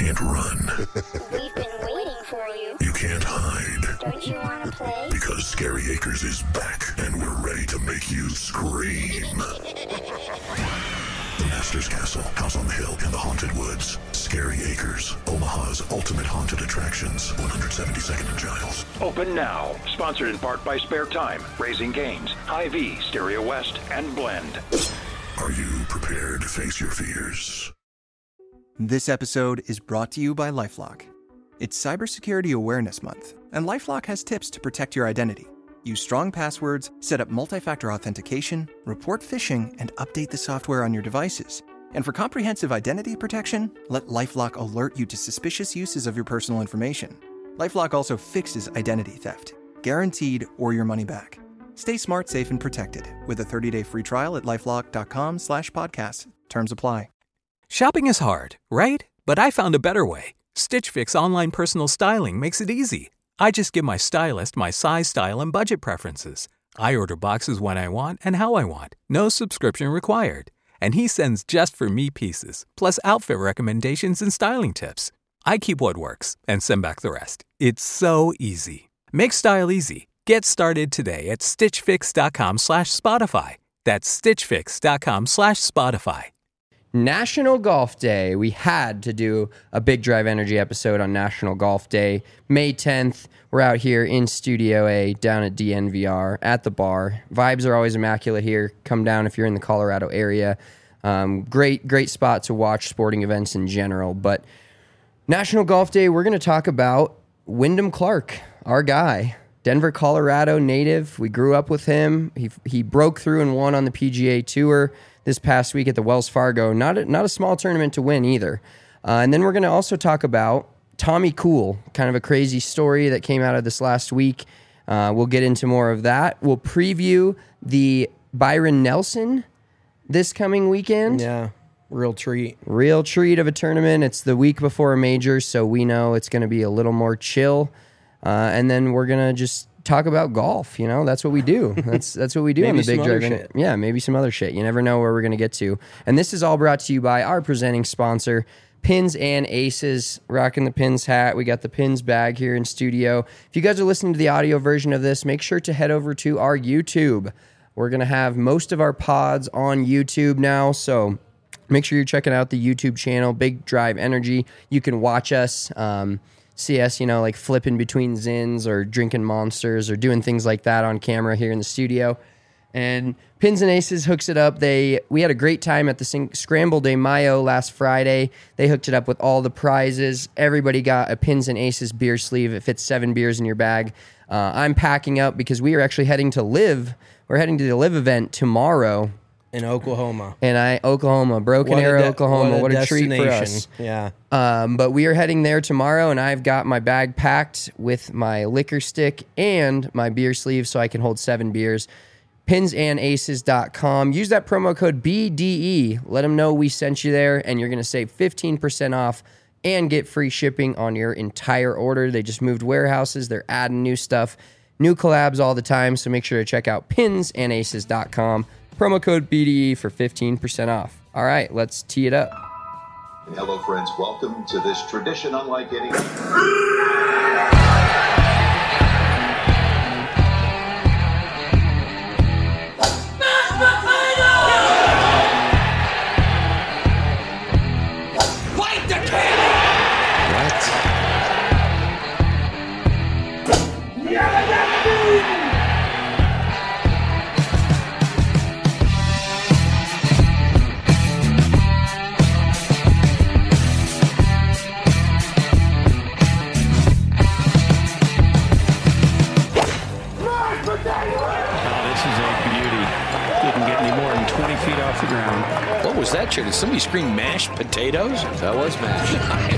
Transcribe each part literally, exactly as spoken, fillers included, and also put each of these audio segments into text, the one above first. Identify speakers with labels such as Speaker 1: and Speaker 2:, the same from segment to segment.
Speaker 1: can't run.
Speaker 2: We've been waiting for you.
Speaker 1: You can't hide.
Speaker 2: Don't you want to play?
Speaker 1: Because Scary Acres is back, and we're ready to make you scream. The Master's Castle, House on the Hill, and the Haunted Woods. Scary Acres, Omaha's ultimate haunted attractions. one seventy-second and Giles.
Speaker 3: Open now. Sponsored in part by Spare Time, Raising Cane's, Hy-Vee, Stereo West, and Blend.
Speaker 1: Are you prepared to face your fears?
Speaker 4: This episode is brought to you by LifeLock. It's Cybersecurity Awareness Month, and LifeLock has tips to protect your identity. Use strong passwords, set up multi-factor authentication, report phishing, and update the software on your devices. And for comprehensive identity protection, let LifeLock alert you to suspicious uses of your personal information. LifeLock also fixes identity theft, guaranteed or your money back. Stay smart, safe, and protected with a thirty-day free trial at LifeLock.com slash podcast. Terms apply.
Speaker 5: Shopping is hard, right? But I found a better way. Stitch Fix online personal styling makes it easy. I just give my stylist my size, style, and budget preferences. I order boxes when I want and how I want. No subscription required. And he sends just for me pieces, plus outfit recommendations and styling tips. I keep what works and send back the rest. It's so easy. Make style easy. Get started today at stitchfix.com slash Spotify. That's stitchfix.com slash Spotify.
Speaker 6: National Golf Day. We had to do a Big Drive Energy episode on National Golf Day. May tenth, we're out here in Studio A down at D N V R at the bar. Vibes are always immaculate here. Come down if you're in the Colorado area. Um, great, great spot to watch sporting events in general. But National Golf Day, we're going to talk about Wyndham Clark, our guy. Denver, Colorado native. We grew up with him. He he broke through and won on the P G A Tour this past week at the Wells Fargo. Not a, not a small tournament to win either. Uh, and then we're going to also talk about Tommy Cool, kind of a crazy story that came out of this last week. Uh, we'll get into more of that. We'll preview the Byron Nelson this coming weekend.
Speaker 7: Yeah, real treat.
Speaker 6: Real treat of a tournament. It's the week before a major, so we know it's going to be a little more chill. Uh, and then we're going to just talk about golf. You know, that's what we do. That's that's what we do on the Big Drive.
Speaker 7: Shit.
Speaker 6: Yeah, maybe some other shit. You never know where we're going to get to. And this is all brought to you by our presenting sponsor, Pins and Aces. Rocking the Pins hat. We got the Pins bag here in studio. If you guys are listening to the audio version of this, make sure to head over to our YouTube. We're going to have most of our pods on YouTube now, so make sure you're checking out the YouTube channel, Big Drive Energy. You can watch us. Um, See us, you know, like flipping between Zins or drinking Monsters or doing things like that on camera here in the studio. And Pins and Aces hooks it up. They we had a great time at the Sing- Scramble de Mayo last Friday. They hooked it up with all the prizes. Everybody got a Pins and Aces beer sleeve. It fits seven beers in your bag. Uh, I'm packing up because we are actually heading to Live. We're heading to the Live event tomorrow.
Speaker 7: In Oklahoma.
Speaker 6: And I, Oklahoma, Broken Arrow, de- Oklahoma. What a, what a treat for us.
Speaker 7: Yeah.
Speaker 6: Um, but we are heading there tomorrow, and I've got my bag packed with my liquor stick and my beer sleeve so I can hold seven beers. pins and aces dot com. Use that promo code B D E. Let them know we sent you there, and you're going to save fifteen percent off and get free shipping on your entire order. They just moved warehouses. They're adding new stuff, new collabs all the time, so make sure to check out pins and aces dot com. Promo code B D E for fifteen percent off. All right, let's tee it up.
Speaker 8: Hello, friends. Welcome to this tradition unlike any...
Speaker 9: What was that, Chair? Did somebody scream mashed potatoes?
Speaker 10: That was mashed.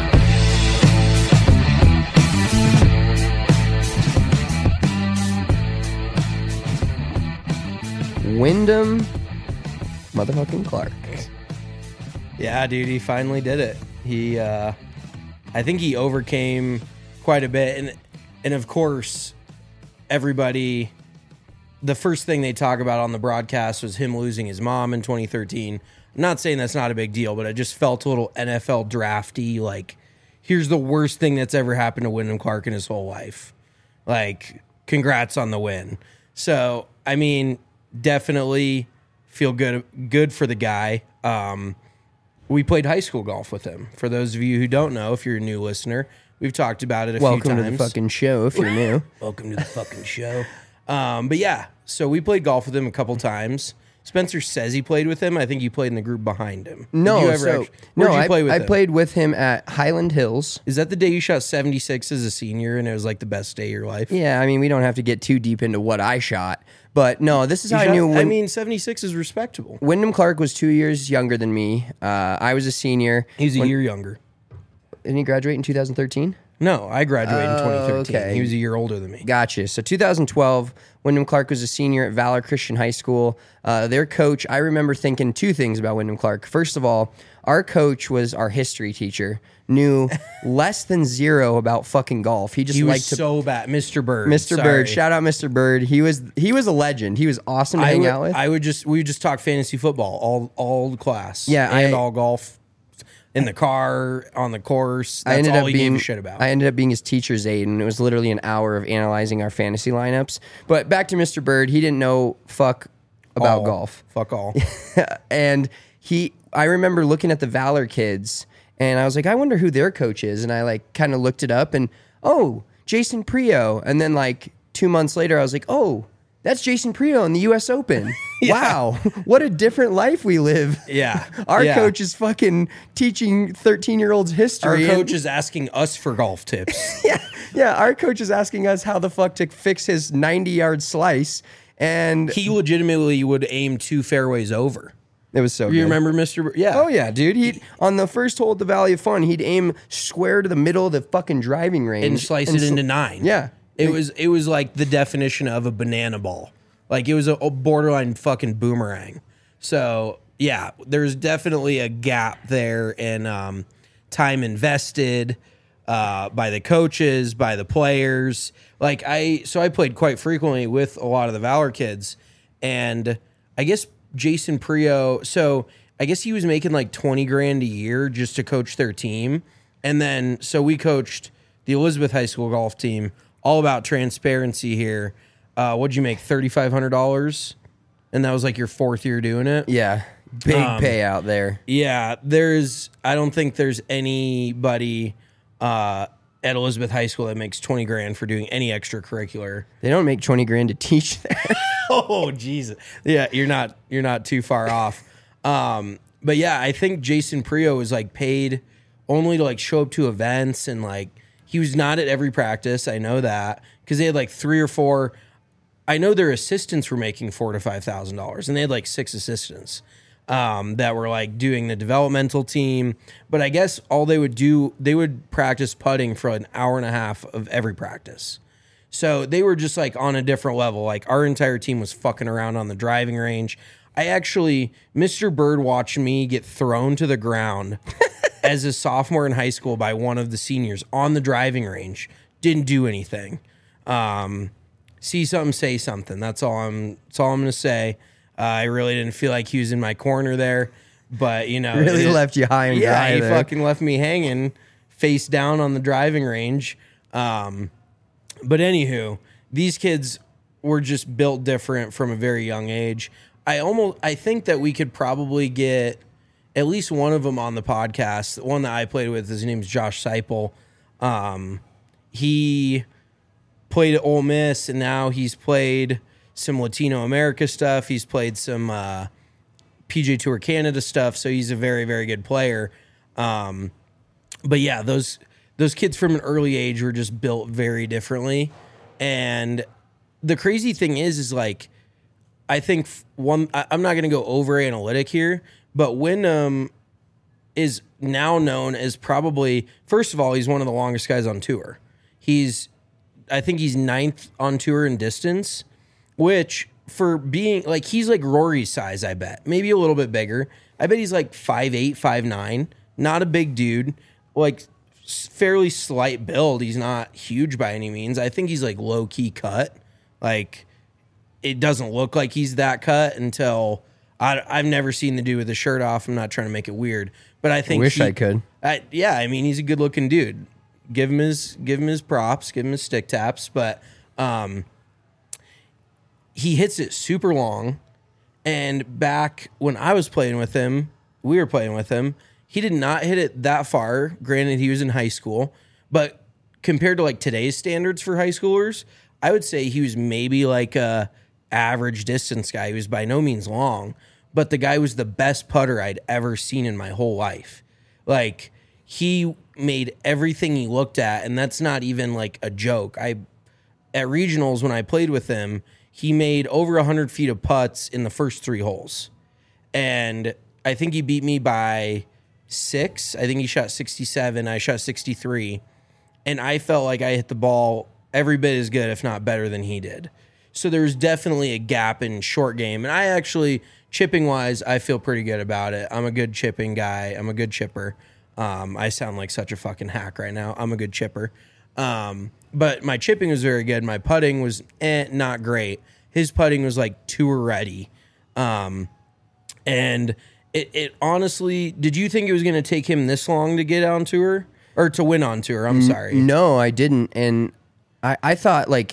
Speaker 6: Wyndham motherfucking Clark.
Speaker 7: Yeah, dude, he finally did it. He, uh, I think he overcame quite a bit. And, and of course, everybody, the first thing they talk about on the broadcast was him losing his mom in twenty thirteen. I'm not saying that's not a big deal, but it just felt a little N F L drafty. Like, here's the worst thing that's ever happened to Wyndham Clark in his whole life. Like, congrats on the win. So, I mean, definitely feel good good for the guy. Um, we played high school golf with him. For those of you who don't know, if you're a new listener, we've talked about it a
Speaker 6: Welcome
Speaker 7: few times.
Speaker 6: to the fucking show if you're new.
Speaker 7: Welcome to the fucking show. Um, but yeah, so we played golf with him a couple times. Spencer says he played with him. I think you played in the group behind him. Did
Speaker 6: No,
Speaker 7: you ever
Speaker 6: so,
Speaker 7: actually, where'd
Speaker 6: no,
Speaker 7: you
Speaker 6: I,
Speaker 7: play with
Speaker 6: I
Speaker 7: him?
Speaker 6: played with him at Highland Hills.
Speaker 7: Is that the day you shot seventy-six as a senior and it was like the best day of your life?
Speaker 6: Yeah, I mean, we don't have to get too deep into what I shot, but no, this is
Speaker 7: You
Speaker 6: how
Speaker 7: shot-
Speaker 6: I knew. When,
Speaker 7: I mean, seventy-six is respectable.
Speaker 6: Wyndham Clark was two years younger than me. Uh, I was a senior.
Speaker 7: He's a
Speaker 6: When-
Speaker 7: year younger.
Speaker 6: Didn't he graduate in two thousand thirteen?
Speaker 7: No, I graduated in twenty thirteen.
Speaker 6: okay.
Speaker 7: He was a year older than me.
Speaker 6: Gotcha. So two thousand twelve, Wyndham Clark was a senior at Valor Christian High School. Uh, their coach, I remember thinking two things about Wyndham Clark. First of all, our coach was our history teacher, knew less than zero about fucking golf. He just
Speaker 7: He was
Speaker 6: liked to.
Speaker 7: so bad. Mister Bird.
Speaker 6: Mister
Speaker 7: Sorry.
Speaker 6: Bird, shout out Mister Bird. He was he was a legend. He was awesome to
Speaker 7: I
Speaker 6: hang
Speaker 7: would,
Speaker 6: out with.
Speaker 7: I would just we would just talk fantasy football all all class.
Speaker 6: Yeah,
Speaker 7: and
Speaker 6: I-
Speaker 7: all golf in the car, on the course. That's
Speaker 6: I ended
Speaker 7: all
Speaker 6: up
Speaker 7: he
Speaker 6: being
Speaker 7: gave a shit about.
Speaker 6: I ended up being his teacher's aide, and it was literally an hour of analyzing our fantasy lineups. But back to Mister Bird, he didn't know fuck about
Speaker 7: All.
Speaker 6: golf.
Speaker 7: Fuck all.
Speaker 6: And he, I remember looking at the Valor kids, and I was like, I wonder who their coach is. And I like kind of looked it up, and oh, Jason Prio. And then like two months later, I was like, oh, that's Jason Prio in the U S Open. Wow, what a different life we live.
Speaker 7: Yeah.
Speaker 6: Our
Speaker 7: Yeah.
Speaker 6: coach is fucking teaching thirteen-year-olds
Speaker 7: Our
Speaker 6: history. and-
Speaker 7: coach is asking us for golf tips.
Speaker 6: yeah, yeah, our coach is asking us how the fuck to fix his ninety-yard slice, and
Speaker 7: He legitimately would aim two fairways over.
Speaker 6: it was so
Speaker 7: You
Speaker 6: good.
Speaker 7: remember Mister Bir- Yeah.
Speaker 6: Oh yeah, dude. He on the first hole at the Valley of Fun, he'd aim square to the middle of the fucking driving range
Speaker 7: And slice it
Speaker 6: sl-
Speaker 7: into nine.
Speaker 6: Yeah,
Speaker 7: It was it was like the definition of a banana ball. Like it was a, a borderline fucking boomerang. So yeah, there's definitely a gap there in um, time invested uh, by the coaches, by the players. Like I, so I played quite frequently with a lot of the Valor kids, and I guess Jason Prio. So I guess he was making like twenty grand a year just to coach their team, and then so we coached the Elizabeth High School golf team. All about transparency here. Uh, what'd you make? thirty-five hundred dollars? And that was like your fourth year doing it?
Speaker 6: yeah, big
Speaker 7: Um,
Speaker 6: payout there.
Speaker 7: Yeah, there's, I don't think there's anybody uh, at Elizabeth High School that makes twenty grand for doing any extracurricular.
Speaker 6: They don't make twenty grand to teach there.
Speaker 7: Oh, Jesus. Yeah, you're not, you're not too far off. Um, but yeah, I think Jason Prio was like paid only to like show up to events, and like he was not at every practice. I know that because they had like three or four. I know their assistants were making four to five thousand dollars, and they had like six assistants um, that were like doing the developmental team. But I guess all they would do, they would practice putting for an hour and a half of every practice. So they were just like on a different level. Like our entire team was fucking around on the driving range. I actually, Mister Bird watched me get thrown to the ground as a sophomore in high school by one of the seniors on the driving range. Didn't do anything. Um, see something, say something. That's all I'm. That's all I'm gonna say. Uh, I really didn't feel like he was in my corner there, but you know,
Speaker 6: Really
Speaker 7: it-
Speaker 6: left you high and
Speaker 7: yeah,
Speaker 6: dry
Speaker 7: he
Speaker 6: there.
Speaker 7: fucking left me hanging, face down on the driving range. Um, but anywho, these kids were just built different from a very young age. I almost, I think that we could probably get at least one of them on the podcast. The one that I played with, his name's Josh Seipel. Um, he played at Ole Miss, and now he's played some Latino America stuff. He's played some uh, P G A Tour Canada stuff, so he's a very, very good player. Um, but yeah, those those kids from an early age were just built very differently. And the crazy thing is, is like, I think one, I, I'm not going to go over analytic here, but Wyndham is now known as probably, first of all, he's one of the longest guys on tour. He's, I think he's ninth on tour in distance, which for being like, he's like Rory's size, I bet. Maybe a little bit bigger. I bet he's like five eight, five nine. Not a big dude. Like fairly slight build. He's not huge by any means. I think he's like low key cut. Like it doesn't look like he's that cut until I, I've never seen the dude with his shirt off. I'm not trying to make it weird, but I think
Speaker 6: Wish
Speaker 7: he,
Speaker 6: I could.
Speaker 7: I, yeah, I mean, he's a good looking dude. Give him his give him his props, give him his stick taps, but um, he hits it super long. And back when I was playing with him, we were playing with him. He did not hit it that far. Granted, he was in high school, but compared to like today's standards for high schoolers, I would say he was maybe like a average distance guy. He was by no means long, but the guy was the best putter I'd ever seen in my whole life. Like, he made everything he looked at, and that's not even like a joke. I at regionals when I played with him, he made over one hundred feet of putts in the first three holes. And I think he beat me by six. I think he shot sixty-seven. I shot sixty-three. And I felt like I hit the ball every bit as good, if not better than he did. So there's definitely a gap in short game. And I actually, chipping-wise, I feel pretty good about it. I'm a good chipping guy. I'm a good chipper. Um, I sound like such a fucking hack right now. I'm a good chipper. Um, but my chipping was very good. My putting was eh, not great. His putting was like tour ready. Um, and it, it honestly, did you think it was going to take him this long to get on tour? Or to win on tour? I'm sorry.
Speaker 6: No, I didn't. And I, I thought like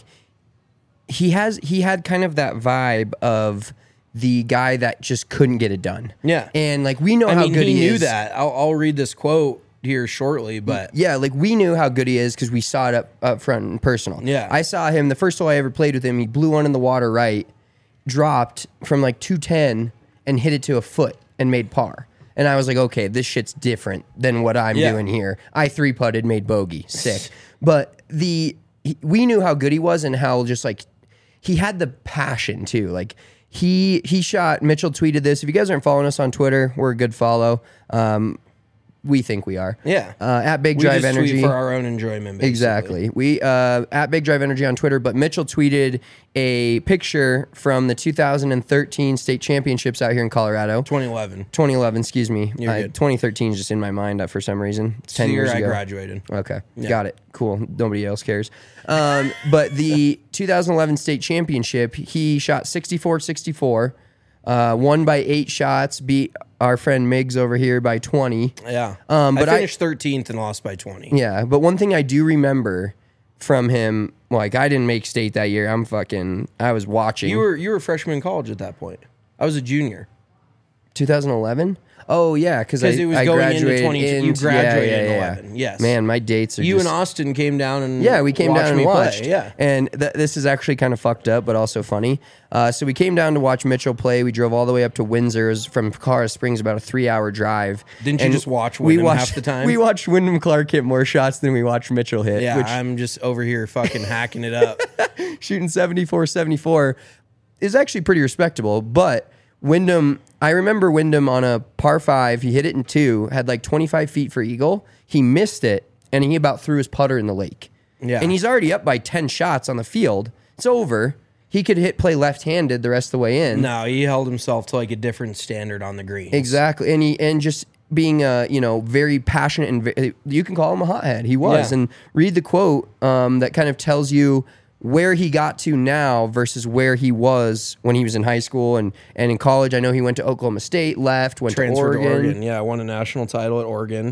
Speaker 6: he has he had kind of that vibe of the guy that just couldn't get it done.
Speaker 7: Yeah.
Speaker 6: And like we know
Speaker 7: I
Speaker 6: how
Speaker 7: mean,
Speaker 6: good
Speaker 7: he,
Speaker 6: he,
Speaker 7: knew
Speaker 6: is.
Speaker 7: that. I'll, I'll read this quote here shortly, but
Speaker 6: yeah, like we knew how good he is because we saw it up, up front and personal.
Speaker 7: Yeah.
Speaker 6: I saw him the first hole I ever played with him. He blew one in the water right, dropped from like two ten and hit it to a foot and made par. And I was like, okay, this shit's different than what I'm
Speaker 7: Yeah.
Speaker 6: doing here. I three putted, made bogey, sick. But the he, we knew how good he was and how just like he had the passion too. Like he he shot. Mitchell tweeted this. If you guys aren't following us on Twitter, we're a good follow. Um, we think we are.
Speaker 7: Yeah.
Speaker 6: Uh, at Big
Speaker 7: we
Speaker 6: Drive
Speaker 7: just tweet
Speaker 6: Energy
Speaker 7: for our own enjoyment. Basically.
Speaker 6: Exactly. We uh, at Big Drive Energy on Twitter, but Mitchell tweeted a picture from the two thousand thirteen state championships out here in Colorado.
Speaker 7: twenty eleven.
Speaker 6: twenty eleven, excuse me.
Speaker 7: You're
Speaker 6: I,
Speaker 7: good.
Speaker 6: twenty thirteen is just in my mind uh, for some reason. It's ten
Speaker 7: The year
Speaker 6: years
Speaker 7: I
Speaker 6: ago.
Speaker 7: graduated.
Speaker 6: Okay,
Speaker 7: Yeah.
Speaker 6: got it. Cool. Nobody else cares. Um, but the two thousand eleven state championship, he shot sixty-four sixty-four, uh, won by eight shots, beat our friend Miggs over here by twenty.
Speaker 7: Yeah.
Speaker 6: Um, but
Speaker 7: I
Speaker 6: I-
Speaker 7: finished thirteenth and lost by twenty.
Speaker 6: Yeah, but one thing I do remember from him, like I didn't make state that year. I'm fucking. I was watching.
Speaker 7: You were you were a freshman in college at that point. I was a junior.
Speaker 6: twenty eleven. Oh yeah, because I,
Speaker 7: Because it was
Speaker 6: I
Speaker 7: going into
Speaker 6: graduated
Speaker 7: twenty.
Speaker 6: in,
Speaker 7: You graduated
Speaker 6: yeah, yeah,
Speaker 7: in
Speaker 6: yeah.
Speaker 7: eleven. Yes.
Speaker 6: Man, my dates are.
Speaker 7: You
Speaker 6: just,
Speaker 7: and Austin came down and
Speaker 6: Yeah, we came
Speaker 7: watched
Speaker 6: down and
Speaker 7: me
Speaker 6: watched.
Speaker 7: play. Yeah.
Speaker 6: And th- this is actually kind of fucked up, but also funny. Uh, so we came down to watch Mitchell play. We drove all the way up to Windsor. It was from Colorado Springs, about a three-hour drive.
Speaker 7: Didn't you
Speaker 6: And
Speaker 7: just watch
Speaker 6: we
Speaker 7: Wyndham
Speaker 6: watched,
Speaker 7: half the time?
Speaker 6: We watched Wyndham Clark hit more shots than we watched Mitchell hit.
Speaker 7: Yeah,
Speaker 6: which
Speaker 7: I'm just over here fucking hacking it up.
Speaker 6: shooting seventy-four seventy-four is actually pretty respectable. But Wyndham, I remember Wyndham on a par five, he hit it in two, had like twenty-five feet for eagle. He missed it, and he about threw his putter in the lake.
Speaker 7: Yeah.
Speaker 6: And he's already up by ten shots on the field. It's over. He could hit play left-handed the rest of the way in.
Speaker 7: No, he held himself to like a different standard on the greens.
Speaker 6: Exactly. And he and just being uh, you know, very passionate and ve- you can call him a hothead. He was.
Speaker 7: Yeah.
Speaker 6: And read the quote um, that kind of tells you where he got to now versus where he was when he was in high school and, and in college. I know he went to Oklahoma State, left, went
Speaker 7: Transferred
Speaker 6: to Oregon.
Speaker 7: to Oregon. Yeah, won a national title at Oregon.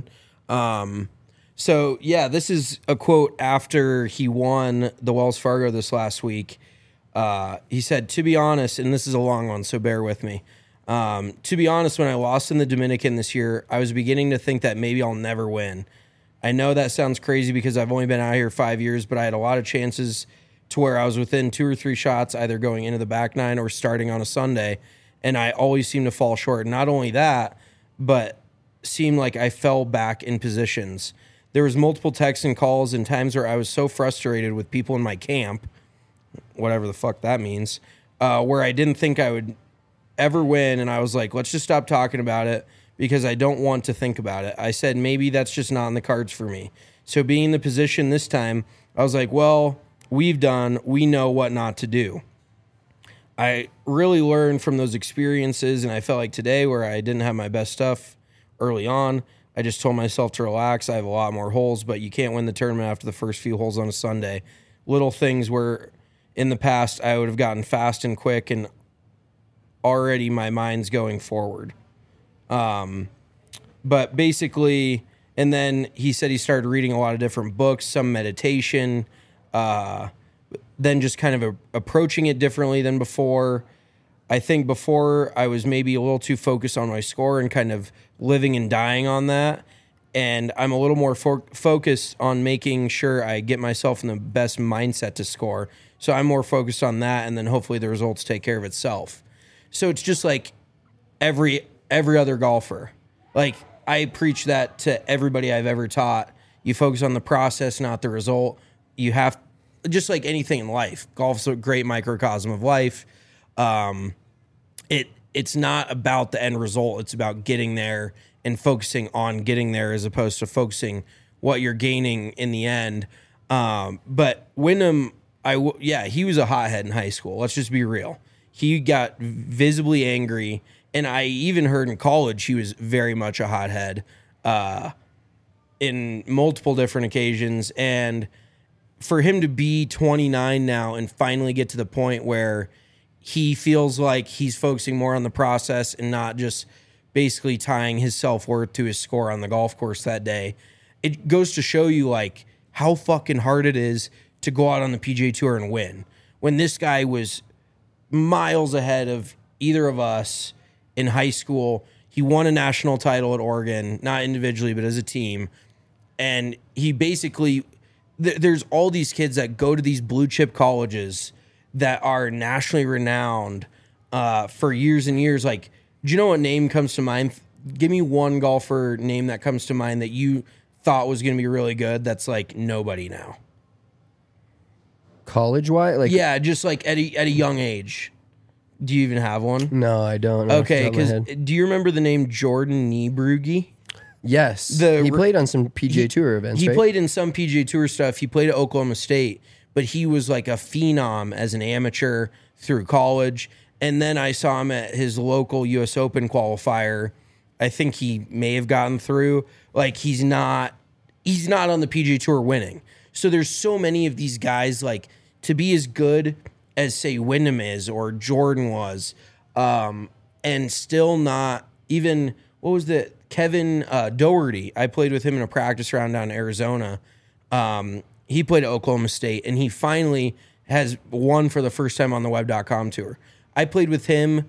Speaker 7: Um, so yeah, this is a quote after he won the Wells Fargo this last week. Uh, he said, "To be honest," and this is a long one, so bear with me. Um, to be honest, when I lost in the Dominican this year, I was beginning to think that maybe I'll never win. I know that sounds crazy because I've only been out here five years, but I had a lot of chances to where I was within two or three shots, either going into the back nine or starting on a Sunday, and I always seemed to fall short. Not only that, but seemed like I fell back in positions. There was multiple texts and calls and times where I was so frustrated with people in my camp, whatever the fuck that means, uh, where I didn't think I would ever win, and I was like, let's just stop talking about it because I don't want to think about it. I said, maybe that's just not in the cards for me. So being in the position this time, I was like, well, we've done, we know what not to do. I really learned from those experiences, and I felt like today where I didn't have my best stuff early on, I just told myself to relax. I have a lot more holes, but you can't win the tournament after the first few holes on a Sunday. Little things where in the past I would have gotten fast and quick and already my mind's going forward. Um, but basically, and then he said he started reading a lot of different books, some meditation, uh, then just kind of a, approaching it differently than before. I think before I was maybe a little too focused on my score and kind of living and dying on that. And I'm a little more fo- focused on making sure I get myself in the best mindset to score. So I'm more focused on that, and then hopefully the results take care of itself. So it's just like every every other golfer. Like, I preach that to everybody I've ever taught. You focus on the process, not the result. You have, just like anything in life, golf's a great microcosm of life. Um, it it's not about the end result. It's about getting there and focusing on getting there as opposed to focusing what you're gaining in the end. Um, but Wyndham, I w- yeah, he was a hothead in high school. Let's just be real. He got visibly angry, and I even heard in college he was very much a hothead uh, in multiple different occasions. And for him to be twenty-nine now and finally get to the point where he feels like he's focusing more on the process and not just basically tying his self-worth to his score on the golf course that day, it goes to show you like how fucking hard it is to go out on the P G A Tour and win. When this guy was miles ahead of either of us in high school, he won a national title at Oregon, not individually, but as a team. And he basically, th- there's all these kids that go to these blue chip colleges that are nationally renowned uh, for years and years. Like, do you know what name comes to mind? Give me one golfer name that comes to mind that you thought was going to be really good that's like nobody now.
Speaker 6: College-wise? Like,
Speaker 7: yeah, just like at a, at a young age. Do you even have one?
Speaker 6: No, I don't. Know
Speaker 7: Okay, because do you remember the name Jordan Niebrugge?
Speaker 6: Yes.
Speaker 7: The,
Speaker 6: he played on some P G A he, Tour events,
Speaker 7: He
Speaker 6: right?
Speaker 7: played in some P G A Tour stuff. He played at Oklahoma State, but he was like a phenom as an amateur through college. And then I saw him at his local U S Open qualifier. I think he may have gotten through. Like, he's not he's not on the P G A Tour winning. So there's so many of these guys, like, to be as good as, say, Wyndham is or Jordan was, um, and still not even, what was the, Kevin uh, Doherty. I played with him in a practice round down in Arizona. Um, he played at Oklahoma State, and he finally has won for the first time on the web dot com tour. I played with him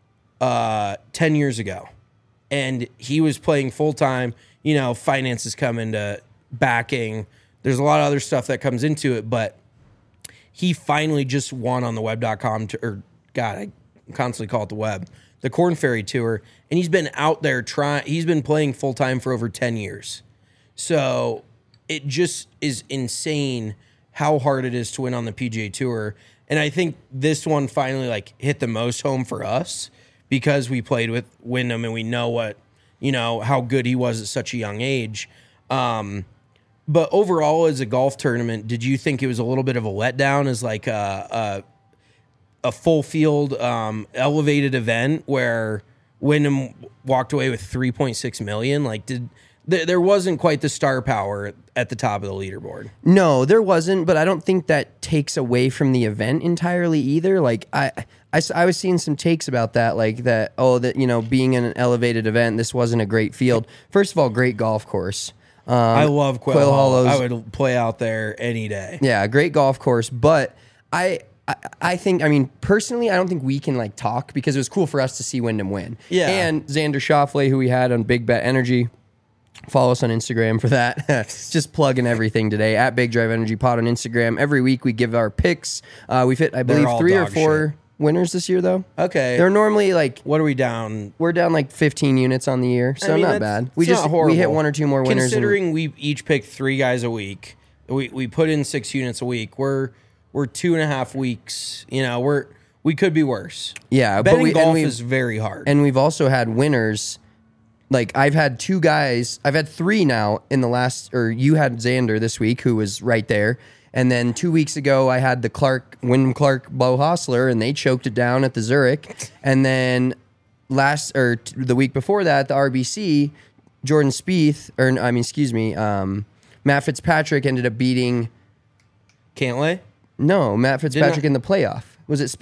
Speaker 7: uh, ten years ago, and he was playing full-time. You know, finances come into backing. There's a lot of other stuff that comes into it, but he finally just won on the web dot com, to, or God, I constantly call it the web, the Korn Ferry Tour, and he's been out there trying. He's been playing full-time for over ten years. So it just is insane how hard it is to win on the P G A Tour. And I think this one finally like hit the most home for us because we played with Wyndham and we know what, you know, how good he was at such a young age. Um, but overall, as a golf tournament, did you think it was a little bit of a letdown as like a, a, a full field um, elevated event where Wyndham walked away with three point six million? Like, did there wasn't quite the star power at the top of the leaderboard.
Speaker 6: No, there wasn't, but I don't think that takes away from the event entirely either. Like, I, I, I was seeing some takes about that, like that, oh, that, you know, being in an elevated event, this wasn't a great field. First of all, great golf course. Um,
Speaker 7: I love Quail,
Speaker 6: Quail
Speaker 7: Hollow.
Speaker 6: Hollows.
Speaker 7: I would play out there any day.
Speaker 6: Yeah, great golf course, but I... I, I think, I mean, personally, I don't think we can, like, talk because it was cool for us to see Wyndham win.
Speaker 7: Yeah.
Speaker 6: And Xander Schauffele, who we had on Big Bet Energy, follow us on Instagram for that. Just plugging everything today at Big Drive Energy Pod on Instagram. Every week we give our picks. Uh, we've hit, I believe, three or four shit. winners this year, though.
Speaker 7: Okay.
Speaker 6: They're normally, like...
Speaker 7: What are we down?
Speaker 6: We're down, like, fifteen units on the year, so I mean, not bad. We just
Speaker 7: horrible.
Speaker 6: we hit one or two more winners.
Speaker 7: Considering
Speaker 6: and,
Speaker 7: we each picked three guys a week, we, we put in six units a week. We're... We're two and a half weeks. You know, we're we could be worse.
Speaker 6: Yeah,
Speaker 7: betting
Speaker 6: but we,
Speaker 7: golf is very hard.
Speaker 6: And we've also had winners. Like, I've had two guys. I've had three now in the last. Or you had Xander this week, who was right there. And then two weeks ago, I had the Clark, Wyndham Clark, Bo Hostler, and they choked it down at the Zurich. And then last or t- the week before that, the R B C, Jordan Spieth, or I mean, excuse me, um, Matt Fitzpatrick ended up beating
Speaker 7: Cantlay.
Speaker 6: No, Matt Fitzpatrick in the playoff. Was it Spieth?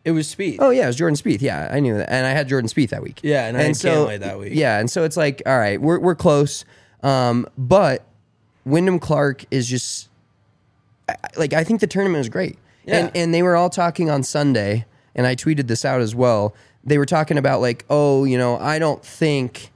Speaker 7: It was Spieth.
Speaker 6: Oh yeah, it was Jordan Spieth. Yeah, I knew that, and I had Jordan Spieth that week.
Speaker 7: Yeah, and I had
Speaker 6: so,
Speaker 7: Cantlay that week.
Speaker 6: Yeah, and so it's like, all right, we're we're close, um, but Wyndham Clark is just I- like I think the tournament was great,
Speaker 7: Yeah.
Speaker 6: and and they were all talking on Sunday, and I tweeted this out as well. They were talking about like, oh, you know, I don't think.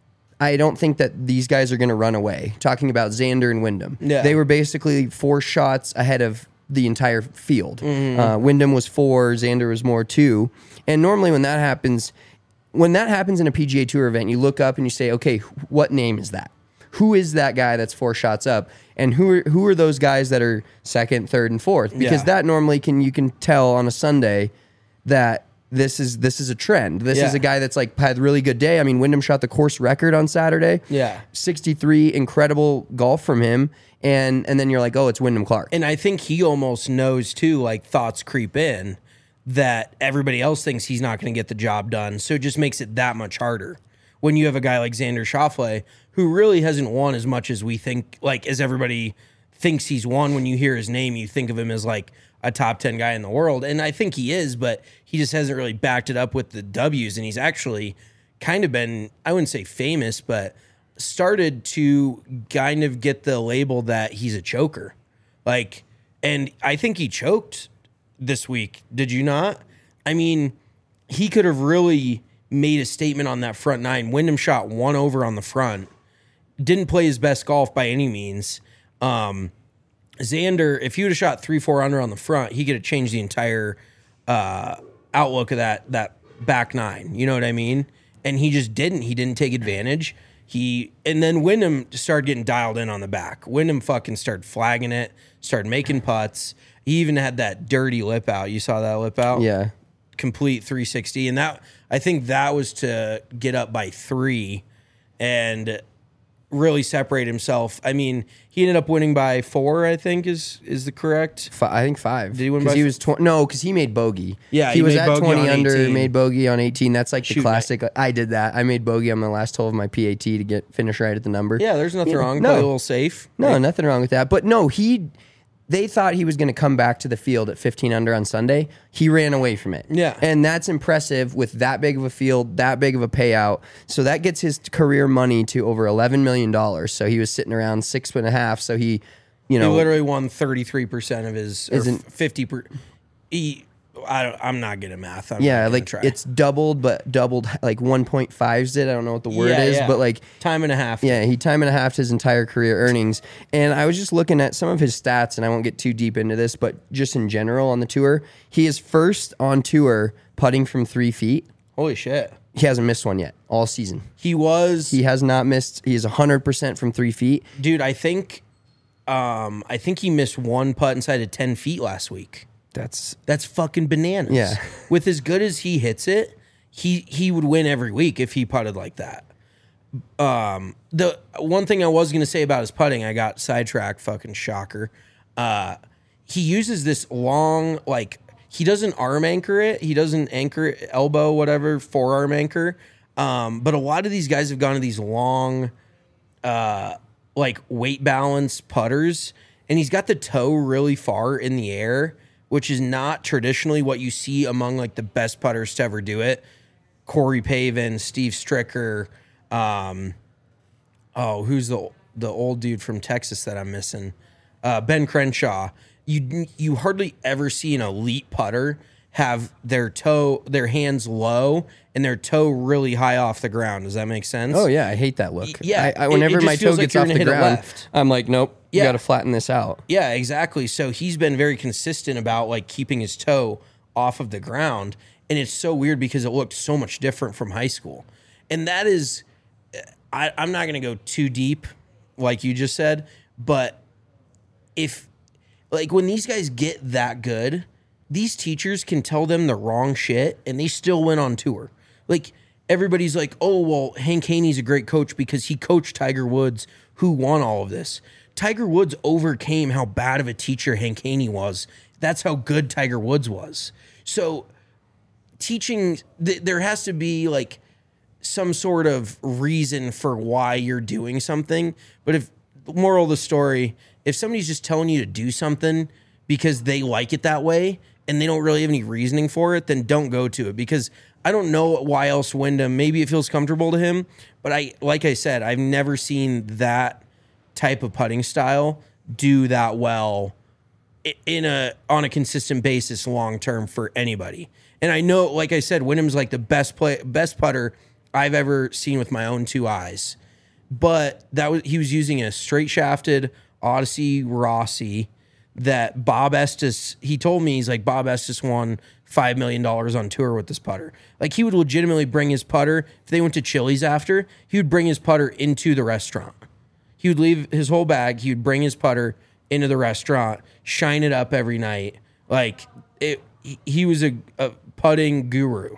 Speaker 6: I don't think that these guys are going to run away. Talking about Xander and Wyndham.
Speaker 7: Yeah.
Speaker 6: They were basically four shots ahead of the entire field.
Speaker 7: Mm-hmm.
Speaker 6: Uh, Wyndham was four, Xander was more two. And normally when that happens, when that happens in a P G A Tour event, you look up and you say, okay, what name is that? Who is that guy that's four shots up? And who are, who are those guys that are second, third, and fourth? Because
Speaker 7: Yeah.
Speaker 6: that normally can you can tell on a Sunday that this is this is a trend. This
Speaker 7: Yeah.
Speaker 6: is a guy that's like had a really good day. I mean, Wyndham shot the course record on Saturday.
Speaker 7: Yeah.
Speaker 6: sixty-three, incredible golf from him. And and then you're like, oh, it's Wyndham Clark.
Speaker 7: And I think he almost knows too, like thoughts creep in that everybody else thinks he's not going to get the job done. So it just makes it that much harder when you have a guy like Xander Schauffele who really hasn't won as much as we think, like as everybody thinks he's won. When you hear his name, you think of him as like a top ten guy in the world. And I think he is, but he just hasn't really backed it up with the W's. And he's actually kind of been, I wouldn't say famous, but started to kind of get the label that he's a choker. Like, and I think he choked this week. Did you not? I mean, he could have really made a statement on that front nine. Wyndham shot one over on the front. Didn't play his best golf by any means. Um, Xander, if he would have shot three, four under on the front, he could have changed the entire uh, outlook of that that back nine. You know what I mean? And he just didn't. He didn't take advantage. He and then Wyndham started getting dialed in on the back. Wyndham fucking started flagging it, started making putts. He even had that dirty lip out. You saw that lip out?
Speaker 6: Yeah.
Speaker 7: Complete three sixty. And that I think that was to get up by three and really separate himself. I mean, he ended up winning by four, I think is is the correct.
Speaker 6: F- I think five.
Speaker 7: Did he win
Speaker 6: 'Cause
Speaker 7: by
Speaker 6: he
Speaker 7: f-
Speaker 6: was tw- no, because he made bogey.
Speaker 7: Yeah,
Speaker 6: he,
Speaker 7: he
Speaker 6: was
Speaker 7: made
Speaker 6: at
Speaker 7: bogey
Speaker 6: twenty
Speaker 7: on
Speaker 6: under,
Speaker 7: eighteen.
Speaker 6: made bogey on eighteen. That's like the
Speaker 7: Shoot,
Speaker 6: classic. I did that. I made bogey on my last hole of my P A T to get finish right at the number.
Speaker 7: Yeah, there's nothing
Speaker 6: Yeah,
Speaker 7: wrong.
Speaker 6: no.
Speaker 7: Play a little safe.
Speaker 6: No,
Speaker 7: Like,
Speaker 6: nothing wrong with that. But no, he. They thought he was going to come back to the field at fifteen under on Sunday. He ran away from it.
Speaker 7: Yeah.
Speaker 6: And that's impressive with that big of a field, that big of a payout. So that gets his career money to over eleven million dollars. So he was sitting around six and a half. So he, you
Speaker 7: he
Speaker 6: know.
Speaker 7: literally won thirty-three percent of his or
Speaker 6: Isn't-
Speaker 7: fifty per he I don't, I'm not good at math. I'm
Speaker 6: yeah,
Speaker 7: not gonna
Speaker 6: like
Speaker 7: try.
Speaker 6: it's doubled, but doubled like one point fives it. I don't know what the word
Speaker 7: Yeah,
Speaker 6: is,
Speaker 7: yeah.
Speaker 6: but like
Speaker 7: time and a half.
Speaker 6: yeah, he time and a half his entire career earnings. And I was just looking at some of his stats, and I won't get too deep into this, but just in general on the tour, he is first on tour putting from three feet.
Speaker 7: Holy shit.
Speaker 6: He hasn't missed one yet all season.
Speaker 7: He was
Speaker 6: He has not missed. He is one hundred percent from three feet.
Speaker 7: dude, I think um I think he missed one putt inside of ten feet last week.
Speaker 6: That's
Speaker 7: That's fucking bananas.
Speaker 6: Yeah.
Speaker 7: With as good as he hits it, he he would win every week if he putted like that. Um, the one thing I was gonna say about his putting, I got sidetracked. Fucking shocker. Uh, he uses this long, like he doesn't arm anchor it. He doesn't anchor it, elbow, whatever, forearm anchor. Um, but a lot of these guys have gone to these long, uh, like weight balance putters, and he's got the toe really far in the air, which is not traditionally what you see among like the best putters to ever do it. Corey Pavin, Steve Stricker, um, oh, who's the the old dude from Texas that I'm missing? Uh, Ben Crenshaw. You you hardly ever see an elite putter have their toe, their hands low and their toe really high off the ground. Does that make sense?
Speaker 6: oh yeah, I hate that look.
Speaker 7: Yeah,
Speaker 6: I, I,
Speaker 7: it- it
Speaker 6: whenever
Speaker 7: just
Speaker 6: my toe
Speaker 7: feels like
Speaker 6: gets
Speaker 7: you're
Speaker 6: off
Speaker 7: gonna
Speaker 6: the
Speaker 7: hit it
Speaker 6: ground,
Speaker 7: left.
Speaker 6: I'm like, nope, you
Speaker 7: Yeah.
Speaker 6: got to flatten this out.
Speaker 7: Yeah, exactly. So he's been very consistent about like keeping his toe off of the ground. And it's so weird because it looked so much different from high school. And that is, I, I'm not going to go too deep, like you just said, but if, like, when these guys get that good, these teachers can tell them the wrong shit and they still went on tour. Like, everybody's like, oh, well, Hank Haney's a great coach because he coached Tiger Woods, who won all of this. Tiger Woods overcame how bad of a teacher Hank Haney was. That's how good Tiger Woods was. So, teaching, th- there has to be, like, some sort of reason for why you're doing something. But if, moral of the story, if somebody's just telling you to do something because they like it that way, and they don't really have any reasoning for it, then don't go to it, because I don't know why else Wyndham, maybe it feels comfortable to him, but I, like I said, I've never seen that type of putting style do that well in a on a consistent basis long term for anybody. And I know, like I said, Wyndham's like the best play, best putter I've ever seen with my own two eyes. But that was he was using a straight shafted Odyssey Rossi that Bob Estes, he told me, he's like, Bob Estes won five million dollars on tour with this putter. Like, he would legitimately bring his putter. If they went to Chili's after, he would bring his putter into the restaurant. He would leave his whole bag. He would bring his putter into the restaurant, shine it up every night. Like, it, he was a, a putting guru.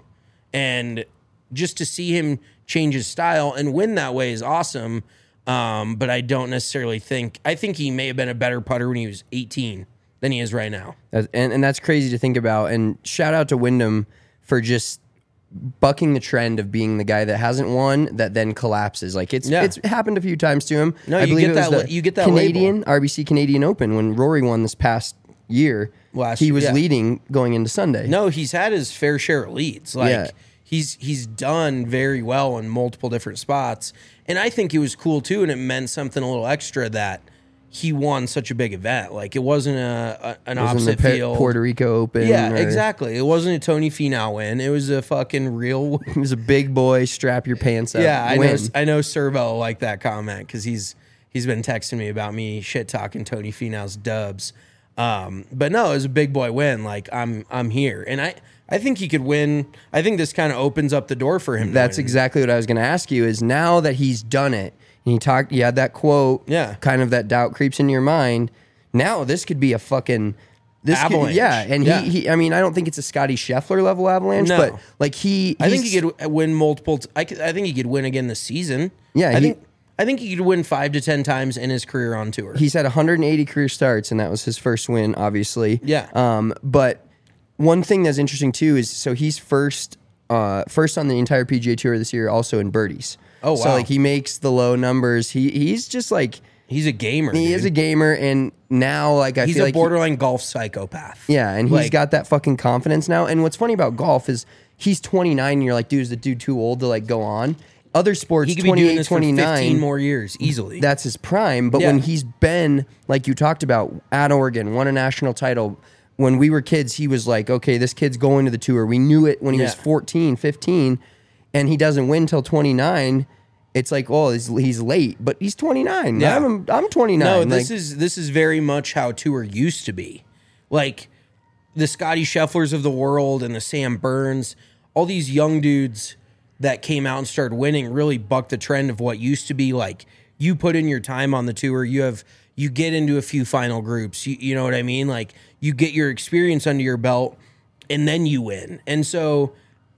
Speaker 7: And just to see him change his style and win that way is awesome. Um, but I don't necessarily think, I think he may have been a better putter when he was eighteen than he is right now.
Speaker 6: And, and that's crazy to think about. And shout out to Wyndham for just bucking the trend of being the guy that hasn't won that then collapses. Like, it's
Speaker 7: Yeah.
Speaker 6: it's happened a few times to him.
Speaker 7: No,
Speaker 6: I
Speaker 7: you
Speaker 6: believe
Speaker 7: get
Speaker 6: it was
Speaker 7: that-
Speaker 6: the
Speaker 7: you get that
Speaker 6: Canadian
Speaker 7: label.
Speaker 6: R B C Canadian Open when Rory won this past year.
Speaker 7: Last
Speaker 6: he
Speaker 7: year,
Speaker 6: was
Speaker 7: yeah.
Speaker 6: leading going into Sunday.
Speaker 7: No, he's had his fair share of leads. Like,
Speaker 6: Yeah.
Speaker 7: he's he's done very well in multiple different spots. And I think it was cool too, and it meant something a little extra that he won such a big event. Like, it wasn't a, a an
Speaker 6: It was in
Speaker 7: opposite
Speaker 6: the Pe-
Speaker 7: field.
Speaker 6: Puerto Rico Open.
Speaker 7: Yeah,
Speaker 6: or-
Speaker 7: exactly. It wasn't a Tony Finau win. It was a fucking real.
Speaker 6: He was a big boy, strap your pants up.
Speaker 7: Yeah, I
Speaker 6: win.
Speaker 7: know. I know. Servo liked that comment because he's he's been texting me about me shit talking Tony Finau's dubs. Um, but no, it was a big boy win. Like, I'm I'm here, and I I think he could win. I think this kind of opens up the door for him. to
Speaker 6: That's
Speaker 7: win.
Speaker 6: exactly what I was going to ask you. Is now that he's done it, and he talked, you had that quote.
Speaker 7: Yeah.
Speaker 6: Kind of that doubt creeps into your mind. Now this could be a fucking this could-
Speaker 7: Avalanche.
Speaker 6: yeah, and
Speaker 7: Yeah.
Speaker 6: he, he. I mean, I don't think it's a Scotty Scheffler level avalanche,
Speaker 7: No.
Speaker 6: but like he.
Speaker 7: I think
Speaker 6: he's-
Speaker 7: he could win multiple. T- I, could, I think he could win again this season.
Speaker 6: Yeah,
Speaker 7: I
Speaker 6: he-
Speaker 7: think I think he could win five to ten times in his career on tour.
Speaker 6: He's had one hundred eighty career starts, and that was his first win, obviously.
Speaker 7: Yeah.
Speaker 6: Um, but one thing that's interesting too is so he's first, uh, first on the entire P G A Tour this year, also in birdies.
Speaker 7: Oh,
Speaker 6: So
Speaker 7: wow.
Speaker 6: like he makes the low numbers. He he's just like
Speaker 7: He's a gamer.
Speaker 6: he
Speaker 7: dude.
Speaker 6: is a gamer, and now like I
Speaker 7: He's
Speaker 6: feel
Speaker 7: a
Speaker 6: like he-
Speaker 7: borderline golf psychopath.
Speaker 6: yeah, and he's
Speaker 7: Like-
Speaker 6: got that fucking confidence now. And what's funny about golf is he's twenty-nine, and you're like, dude, is the dude too old to like go on? Other sports,
Speaker 7: He could be doing
Speaker 6: twenty-eight,
Speaker 7: this for
Speaker 6: twenty-nine,
Speaker 7: fifteen more years easily.
Speaker 6: that's his prime. But
Speaker 7: Yeah.
Speaker 6: when he's been, like you talked about, at Oregon, won a national title. When we were kids, he was like, okay, this kid's going to the tour. We knew it when he was
Speaker 7: Yeah.
Speaker 6: fourteen, fifteen, and he doesn't win till twenty-nine. It's like, oh, he's, he's late, but he's twenty-nine.
Speaker 7: Yeah.
Speaker 6: I'm, I'm twenty-nine.
Speaker 7: No,
Speaker 6: Like,
Speaker 7: this is this is very much how tour used to be. Like the Scotty Schefflers of the world and the Sam Burns, all these young dudes that came out and started winning really bucked the trend of what used to be like you put in your time on the tour, you have you get into a few final groups, you, you know what I mean? Like you get your experience under your belt and then you win. And so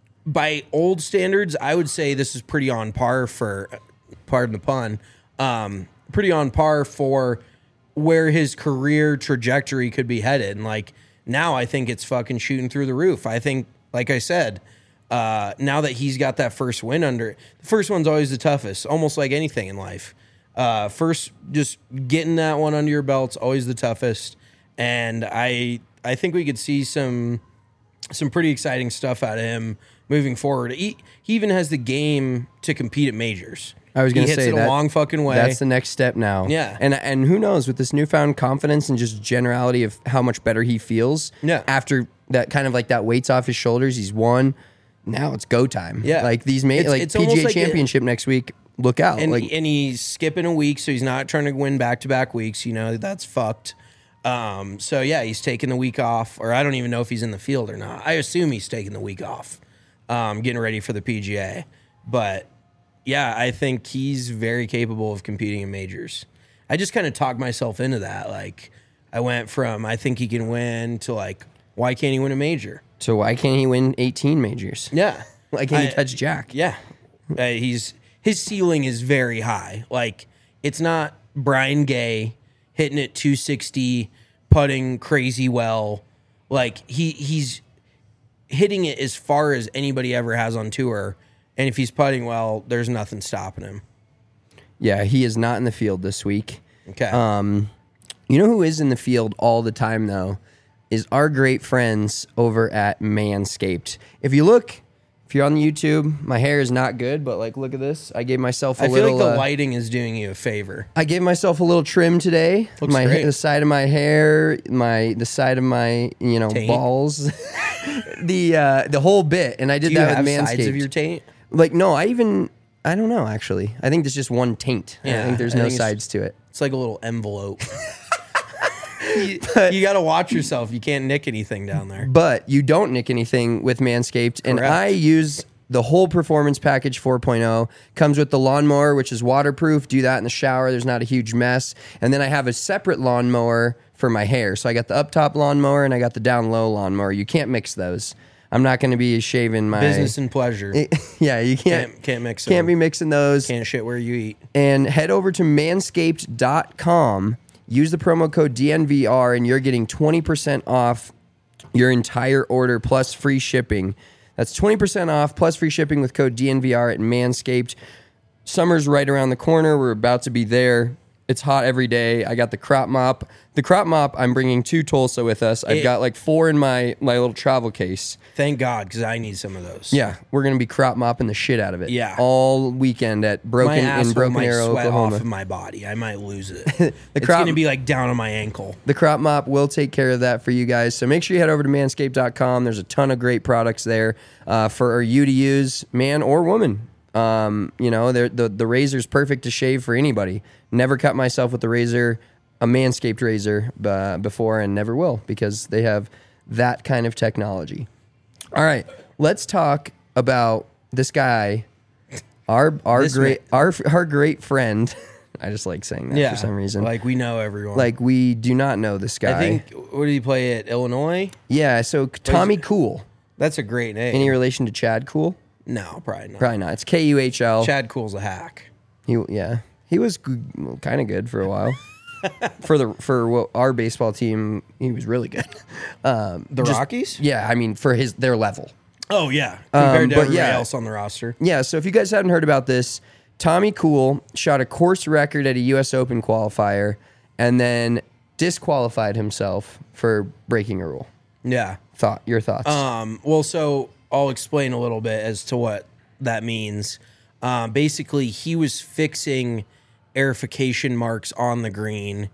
Speaker 7: by old standards, I would say this is pretty on par for, pardon the pun, um, pretty on par for where his career trajectory could be headed. And like now I think it's fucking shooting through the roof. I think, like I said, uh, now that he's got that first win under, the first one's always the toughest, almost like anything in life. Uh, first, just getting that one under your belt's always the toughest. And I, I think we could see some, some pretty exciting stuff out of him moving forward. He, he even has the game to compete at majors.
Speaker 6: I was going
Speaker 7: He
Speaker 6: to
Speaker 7: hits
Speaker 6: say
Speaker 7: it
Speaker 6: that,
Speaker 7: a long fucking way.
Speaker 6: That's the next step now.
Speaker 7: Yeah.
Speaker 6: and and who knows with this newfound confidence and just generality of how much better he feels.
Speaker 7: Yeah.
Speaker 6: after that kind of like that weight's off his shoulders. He's won. Now it's go time.
Speaker 7: Yeah.
Speaker 6: like these ma-
Speaker 7: It's-
Speaker 6: like
Speaker 7: it's
Speaker 6: P G
Speaker 7: almost
Speaker 6: A
Speaker 7: like it-
Speaker 6: Championship next week. Look out!
Speaker 7: and
Speaker 6: like
Speaker 7: and he's skipping a week, so he's not trying to win back to back weeks. You know that's fucked. Um, so yeah, he's taking the week off, or I don't even know if he's in the field or not. I assume he's taking the week off, um, getting ready for the P G A. But yeah, I think he's very capable of competing in majors. I just kind of talked myself into that. Like I went from I think he can win to like why can't he win a major?
Speaker 6: so why can't he win eighteen majors?
Speaker 7: Yeah,
Speaker 6: Why can't he
Speaker 7: I-
Speaker 6: touch Jack?
Speaker 7: Yeah, uh, he's his ceiling is very high. Like it's not Brian Gay hitting it two sixty, putting crazy well. Like he he's hitting it as far as anybody ever has on tour. And if he's putting well, there's nothing stopping him.
Speaker 6: Yeah, he is not in the field this week.
Speaker 7: Okay.
Speaker 6: Um, you know who is in the field all the time though is our great friends over at Manscaped. If you look, if you're on YouTube, my hair is not good, but like, look at this. I gave myself a
Speaker 7: I feel
Speaker 6: little.
Speaker 7: like the
Speaker 6: uh,
Speaker 7: lighting is doing you a favor.
Speaker 6: I gave myself a little trim today.
Speaker 7: Looks
Speaker 6: my
Speaker 7: great.
Speaker 6: the side of my hair, my the side of my you know
Speaker 7: Taint.
Speaker 6: balls, the uh, the whole bit, and I did
Speaker 7: Do you
Speaker 6: that
Speaker 7: have
Speaker 6: with Manscaped.
Speaker 7: sides of your taint?
Speaker 6: Like no, I even I don't know actually. I think there's just one taint. I
Speaker 7: Yeah,
Speaker 6: think there's
Speaker 7: I
Speaker 6: no
Speaker 7: think it's-
Speaker 6: sides to it.
Speaker 7: It's like a little envelope. you you got to watch yourself. You can't nick anything down there.
Speaker 6: But you don't nick anything with Manscaped. And
Speaker 7: Correct.
Speaker 6: I use the whole Performance Package four point oh. Comes with the lawnmower, which is waterproof. Do that in the shower. There's not a huge mess. And then I have a separate lawnmower for my hair. So I got the up top lawnmower and I got the down low lawnmower. You can't mix those. I'm not going to be shaving my
Speaker 7: Business and pleasure.
Speaker 6: yeah, you can't
Speaker 7: Can't, can't mix
Speaker 6: can't
Speaker 7: them.
Speaker 6: be mixing those.
Speaker 7: Can't shit where you eat.
Speaker 6: And head over to manscaped dot com. Use the promo code D N V R and you're getting twenty percent off your entire order plus free shipping. That's twenty percent off plus free shipping with code D N V R at Manscaped. Summer's right around the corner. We're about to be there. It's hot every day. I got the crop mop. The crop mop, I'm bringing to Tulsa with us. I've
Speaker 7: It-
Speaker 6: got like four in my, my little travel case.
Speaker 7: Thank God, because I need some of those.
Speaker 6: Yeah, we're going to be crop mopping the shit out of it.
Speaker 7: Yeah.
Speaker 6: All weekend at
Speaker 7: My
Speaker 6: Broken in
Speaker 7: asshole
Speaker 6: Broken
Speaker 7: might
Speaker 6: Arrow,
Speaker 7: sweat
Speaker 6: Oklahoma.
Speaker 7: off of my body. I might lose it. It's
Speaker 6: crop-
Speaker 7: going to be like down on my ankle.
Speaker 6: The crop mop will take care of that for you guys. So make sure you head over to manscaped dot com. There's a ton of great products there uh, for you to use, man or woman. Um, you know, the the razor's perfect to shave for anybody. Never cut myself with the razor, a Manscaped razor uh, before, and never will because they have that kind of technology. All right, let's talk about this guy, our our
Speaker 7: This
Speaker 6: great
Speaker 7: man.
Speaker 6: our our great friend. I just like saying that
Speaker 7: Yeah.
Speaker 6: for some reason.
Speaker 7: Like we know everyone.
Speaker 6: Like we do not know this guy.
Speaker 7: I think, what did he play at Illinois?
Speaker 6: Yeah, so Tommy Cool.
Speaker 7: That's a great name.
Speaker 6: Any relation to Chad Cool?
Speaker 7: No, probably not.
Speaker 6: Probably not. It's K U H L.
Speaker 7: Chad Cool's a hack.
Speaker 6: He, yeah, he was kind of good for a while. for the for what our baseball team, he was really good. Um,
Speaker 7: The
Speaker 6: just-
Speaker 7: Rockies?
Speaker 6: Yeah, I mean for his their level.
Speaker 7: Oh, yeah. Compared
Speaker 6: Um,
Speaker 7: to
Speaker 6: but
Speaker 7: everybody
Speaker 6: yeah.
Speaker 7: else on the roster.
Speaker 6: Yeah, so if you guys haven't heard about this, Tommy Cool shot a course record at a U S Open qualifier and then disqualified himself for breaking a rule.
Speaker 7: Yeah.
Speaker 6: Thought your thoughts?
Speaker 7: Um, well, so I'll explain a little bit as to what that means. Um, basically, he was fixing aerification marks on the green,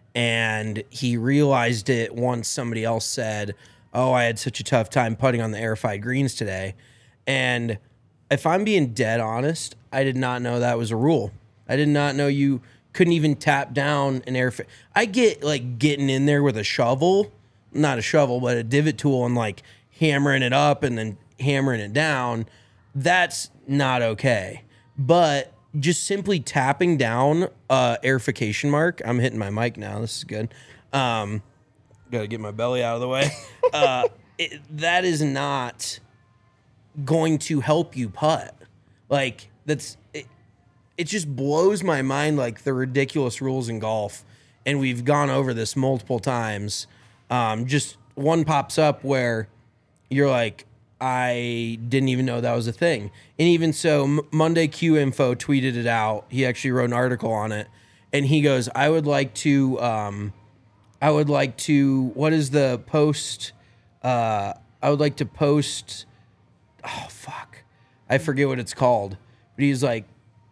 Speaker 7: and he realized it once somebody else said, "Oh, I had such a tough time putting on the airified greens today." And if I'm being dead honest, I did not know that was a rule. I did not know you couldn't even tap down an air. I get like getting in there with a shovel, not a shovel, but a divot tool, and like hammering it up and then hammering it down. That's not okay. But just simply tapping down uh, airification mark. I'm hitting my mic now. This is good. Um, Got to get my belly out of the way. Uh, it, that is not going to help you putt. Like that's it, it just blows my mind, like the ridiculous rules in golf, and we've gone over this multiple times. Um, just one pops up where you're like, I didn't even know that was a thing. And even so, M- Monday Q Info tweeted it out. He actually wrote an article on it, and he goes, I would like to um, I would like to what is the post uh, I would like to post oh fuck I forget what it's called, but he's like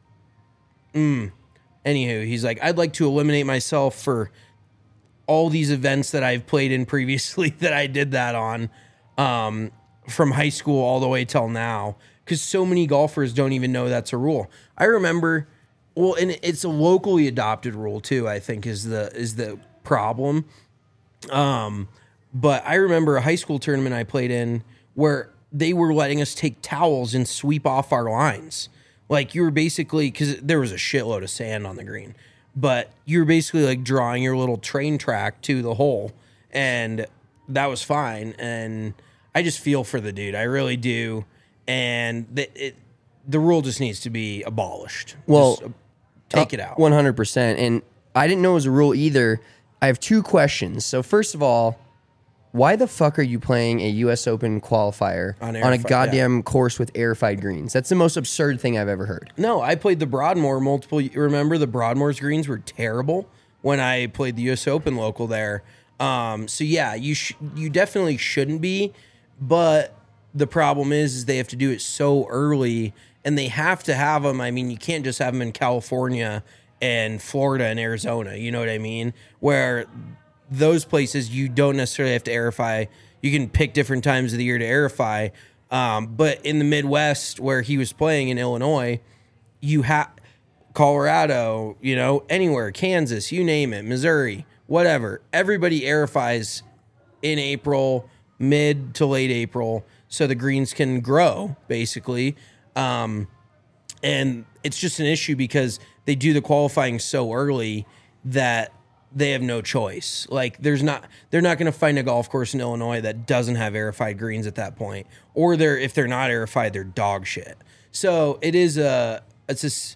Speaker 7: mm anywho he's like I'd like to eliminate myself for all these events that I've played in previously that I did that on um, from high school all the way till now, because so many golfers don't even know that's a rule. I remember, well, and it's a locally adopted rule too, I think is the is the problem. Um, but I remember a high school tournament I played in where they were letting us take towels and sweep off our lines. Like you were basically, because there was a shitload of sand on the green, but you were basically like drawing your little train track to the hole, and that was fine. And I just feel for the dude. I really do. And the, it, the rule just needs to be abolished.
Speaker 6: Well,
Speaker 7: Just, uh, take it out.
Speaker 6: one hundred percent. And I didn't know it was a rule either. I have two questions. So first of all, why the fuck are you playing a U S Open qualifier
Speaker 7: On
Speaker 6: on, a
Speaker 7: airified-
Speaker 6: goddamn course with airified greens? That's the most absurd thing I've ever heard.
Speaker 7: No, I played the Broadmoor multiple. Remember the Broadmoor's greens were terrible when I played the U S Open local there. Um, so yeah, you sh- you definitely shouldn't be, but the problem is, is they have to do it so early, and they have to have them. I mean, you can't just have them in California and Florida and Arizona. You know what I mean? Where those places you don't necessarily have to aerify. You can pick different times of the year to aerify. Um, but in the Midwest, where he was playing in Illinois, you have Colorado, you know, anywhere, Kansas, you name it, Missouri, whatever. Everybody aerifies in April, mid to late April, so the greens can grow, basically. Um, and it's just an issue because they do the qualifying so early that they have no choice. Like, there's not, they're not going to find a golf course in Illinois that doesn't have aerified greens at that point, or they're, if they're not aerified, they're dog shit. So it is a, it's just,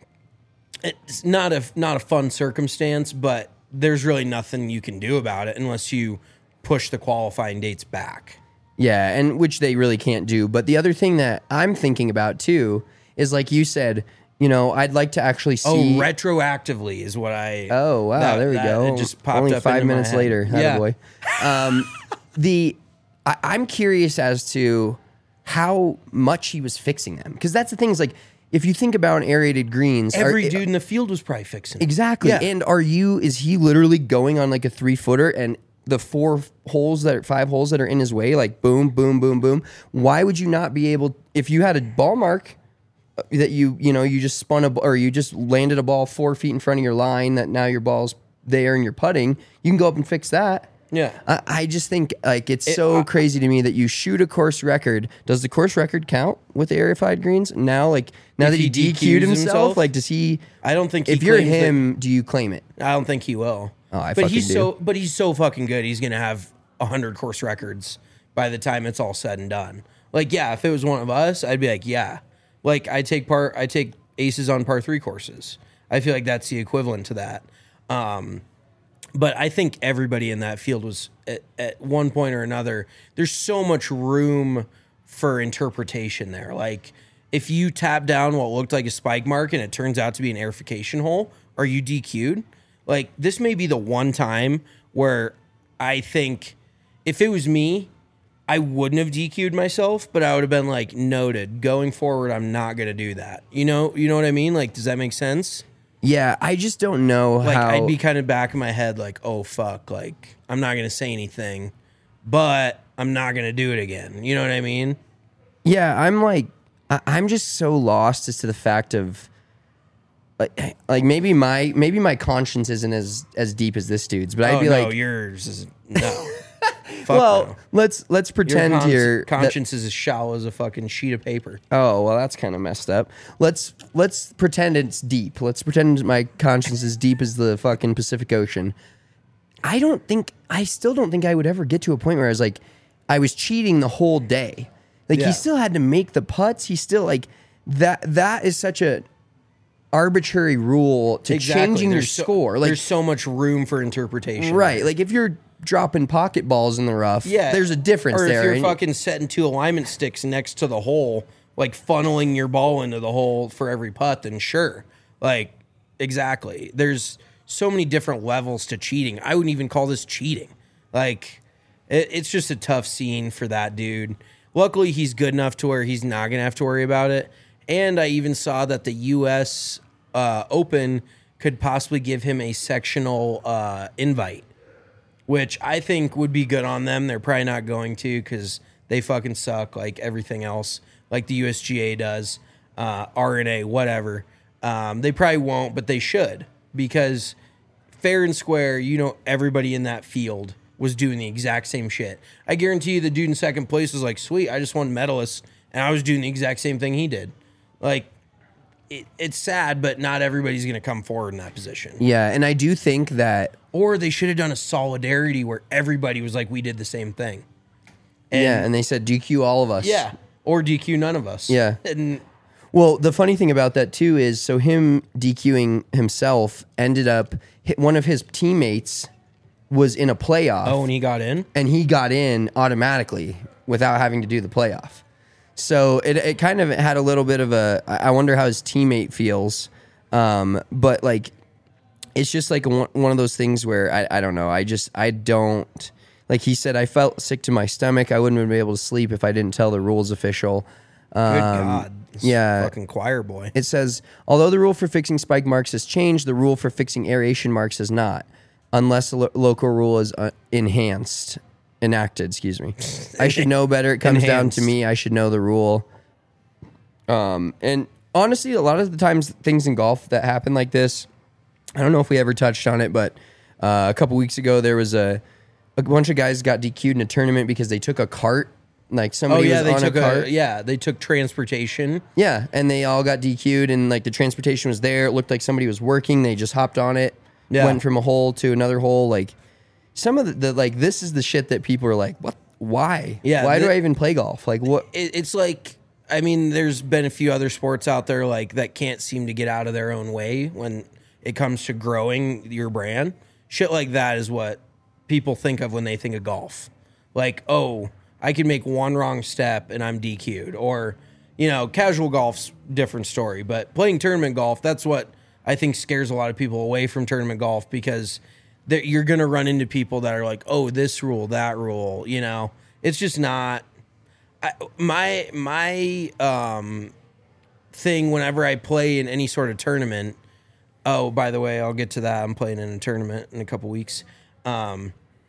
Speaker 7: it's not a, not a fun circumstance, but there's really nothing you can do about it unless you push the qualifying dates back.
Speaker 6: Yeah, and which they really can't do. But the other thing that I'm thinking about too is, like you said, you know, I'd like to actually see.
Speaker 7: Oh, retroactively is what I.
Speaker 6: Oh wow,
Speaker 7: that,
Speaker 6: there we
Speaker 7: that,
Speaker 6: go.
Speaker 7: It just popped
Speaker 6: Only
Speaker 7: up
Speaker 6: five
Speaker 7: into my
Speaker 6: minutes
Speaker 7: head.
Speaker 6: later.
Speaker 7: Yeah.
Speaker 6: Boy. Um, the I, I'm curious as to how much he was fixing them, because that's the thing is, like, if you think about aerated greens,
Speaker 7: Every
Speaker 6: are,
Speaker 7: dude in the field was probably fixing it.
Speaker 6: exactly.
Speaker 7: Yeah.
Speaker 6: And are you? Is he literally going on like a three footer and the four holes that are five holes that are in his way, like boom, boom, boom, boom? Why would you not be able, if you had a ball mark that you, you know, you just spun a, or you just landed a ball four feet in front of your line that now your ball's there and you're putting, you can go up and fix that.
Speaker 7: Yeah.
Speaker 6: I, I just think, like, it's
Speaker 7: It-
Speaker 6: so
Speaker 7: I-
Speaker 6: crazy to me that you shoot a course record. Does the course record count with the aerified greens? Now, like, now
Speaker 7: If
Speaker 6: that he,
Speaker 7: he
Speaker 6: D Q'd
Speaker 7: D Qs
Speaker 6: himself,
Speaker 7: himself?
Speaker 6: like, does he,
Speaker 7: I don't think he
Speaker 6: if you're
Speaker 7: claims that-
Speaker 6: him, do you claim it?
Speaker 7: I don't think he will.
Speaker 6: Oh, I
Speaker 7: but
Speaker 6: fucking
Speaker 7: he's
Speaker 6: do.
Speaker 7: so but he's so fucking good. He's gonna have a hundred course records by the time it's all said and done. Like, yeah, if it was one of us, I'd be like, yeah. Like, I take part I take aces on par three courses. I feel like that's the equivalent to that. Um, but I think everybody in that field was at, at one point or another. There's so much room for interpretation there. Like, if you tap down what looked like a spike mark and it turns out to be an aerification hole, are you D Q'd? Like, this may be the one time where I think if it was me, I wouldn't have D Q'd myself, but I would have been like, noted. Going forward, I'm not going to do that. You know, you know what I mean? Like, does that make sense?
Speaker 6: Yeah, I just don't know
Speaker 7: Like,
Speaker 6: how.
Speaker 7: I'd be kind of back in my head, like, oh, fuck. Like, I'm not going to say anything, but I'm not going to do it again. You know what I mean?
Speaker 6: Yeah, I'm like, I- I'm just so lost as to the fact of, like, like maybe my maybe my conscience isn't as as deep as this dude's, but I'd
Speaker 7: oh,
Speaker 6: be
Speaker 7: no,
Speaker 6: like,
Speaker 7: yours is, no. Fuck
Speaker 6: well,
Speaker 7: no.
Speaker 6: let's let's
Speaker 7: Your
Speaker 6: pretend
Speaker 7: cons-
Speaker 6: here. that-
Speaker 7: conscience is as shallow as a fucking sheet of paper.
Speaker 6: Oh, well, that's kind of messed up. Let's let's pretend it's deep. Let's pretend my conscience is deep as the fucking Pacific Ocean. I don't think I still don't think I would ever get to a point where I was like, I was cheating the whole day. Like,
Speaker 7: Yeah.
Speaker 6: he still had to make the putts. He still, like, that that is such a arbitrary rule to changing your
Speaker 7: There's so-
Speaker 6: score. Like,
Speaker 7: there's so much room for interpretation.
Speaker 6: right.
Speaker 7: there.
Speaker 6: Like, if you're dropping pocket balls in the rough,
Speaker 7: yeah,
Speaker 6: there's a difference
Speaker 7: or
Speaker 6: there.
Speaker 7: if you're
Speaker 6: And-
Speaker 7: fucking setting two alignment sticks next to the hole, like funneling your ball into the hole for every putt, then sure. Like, exactly. There's so many different levels to cheating. I wouldn't even call this cheating. Like, it, it's just a tough scene for that dude. Luckily, he's good enough to where he's not going to have to worry about it. And I even saw that the U S uh, Open could possibly give him a sectional uh, invite, which I think would be good on them. They're probably not going to because they fucking suck like everything else, like the U S G A does, uh, R N A, whatever. Um, they probably won't, but they should, because fair and square, you know, everybody in that field was doing the exact same shit. I guarantee you the dude in second place was like, sweet, I just won medalist, and I was doing the exact same thing he did. Like, it, it's sad, but not everybody's going to come forward in that position.
Speaker 6: yeah, and I do think that.
Speaker 7: Or they should have done a solidarity where everybody was like, we did the same thing.
Speaker 6: yeah, and they said D Q all of us.
Speaker 7: Yeah. Or D Q none of us.
Speaker 6: Yeah.
Speaker 7: And
Speaker 6: Well, the funny thing about that too is, so him DQing himself ended up, one of his teammates was in a playoff.
Speaker 7: oh, and he got in?
Speaker 6: and he got in automatically without having to do the playoff. So it it kind of had a little bit of a, I wonder how his teammate feels. Um, but like, it's just like one, one of those things where I, I don't know. I just, I don't, like he said, I felt sick to my stomach. I wouldn't have been able to sleep if I didn't tell the rules official. Um,
Speaker 7: Good God. This
Speaker 6: yeah.
Speaker 7: Fucking choir boy.
Speaker 6: It says, although the rule for fixing spike marks has changed, the rule for fixing aeration marks has not, unless the lo- local rule is uh, enhanced, enacted, excuse me. I should know better. It comes down to me. I should know the rule. Um, and honestly, a lot of the times things in golf that happen like this, I don't know if we ever touched on it, but uh, a couple weeks ago there was a a bunch of guys got D Q'd in a tournament because they took a cart. Like somebody
Speaker 7: oh yeah,
Speaker 6: was
Speaker 7: they
Speaker 6: on
Speaker 7: took
Speaker 6: a cart.
Speaker 7: A, yeah, they took transportation.
Speaker 6: Yeah, and they all got D Q'd, and like the transportation was there. It looked like somebody was working. They just hopped on it,
Speaker 7: Yeah.
Speaker 6: went from a hole to another hole. Like some of the, the like this is the shit that people are like, what? Why?
Speaker 7: Yeah,
Speaker 6: Why
Speaker 7: the-
Speaker 6: do I even play golf? Like what?
Speaker 7: It, it's like, I mean, there's been a few other sports out there like that can't seem to get out of their own way when it comes to growing your brand. Shit like that is what people think of when they think of golf. Like, oh, I can make one wrong step and I'm D Q'd. Or, you know, casual golf's different story. But playing tournament golf, that's what I think scares a lot of people away from tournament golf, because that you're going to run into people that are like, oh, this rule, that rule. You know, it's just not. I, my my um, thing whenever I play in any sort of tournament. Oh, by the way, I'll get to that. I'm playing in a tournament in a couple weeks. Um,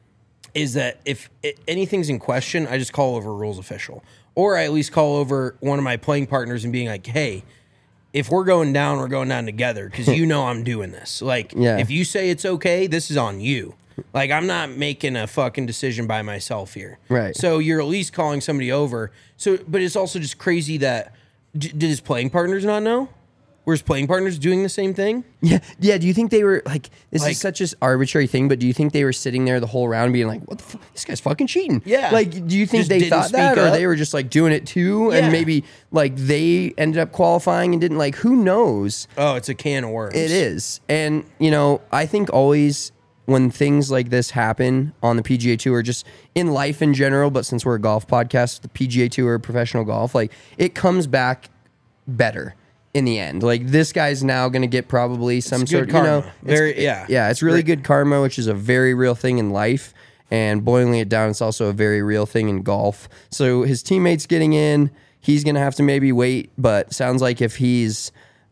Speaker 7: is that if it, anything's in question, I just call over rules official, or I at least call over one of my playing partners and being like, "Hey, if we're going down, we're going down together, because you know I'm doing this. Like,
Speaker 6: Yeah.
Speaker 7: if you say it's okay, this is on you. Like, I'm not making a fucking decision by myself here.
Speaker 6: Right.
Speaker 7: So you're at least calling somebody over. So, but it's also just crazy that d- did his playing partners not know? Were his playing partners doing the same thing?
Speaker 6: Yeah, yeah. Do you think they were like this
Speaker 7: Like-
Speaker 6: is such an arbitrary thing? But do you think they were sitting there the whole round being like, "What the fuck? This guy's fucking cheating"?
Speaker 7: Yeah.
Speaker 6: Like, do you think
Speaker 7: Just
Speaker 6: they
Speaker 7: didn't
Speaker 6: thought that,
Speaker 7: speak
Speaker 6: or
Speaker 7: up?
Speaker 6: they were just like doing it too,
Speaker 7: Yeah.
Speaker 6: and maybe like they ended up qualifying and didn't like? Who knows?
Speaker 7: Oh, it's a can of worms.
Speaker 6: It is, and you know, I think always when things like this happen on the P G A Tour, just in life in general, but since we're a golf podcast, the P G A Tour, professional golf, like it comes back better in the end. Like this guy's now going to get probably some
Speaker 7: It's
Speaker 6: sort
Speaker 7: good
Speaker 6: of, you know,
Speaker 7: karma.
Speaker 6: it's-
Speaker 7: Very- yeah.
Speaker 6: yeah, it's really
Speaker 7: Great.
Speaker 6: good karma, which is a very real thing in life. And boiling it down, it's also a very real thing in golf. So his teammates getting in, he's going to have to maybe wait. But sounds like if he's,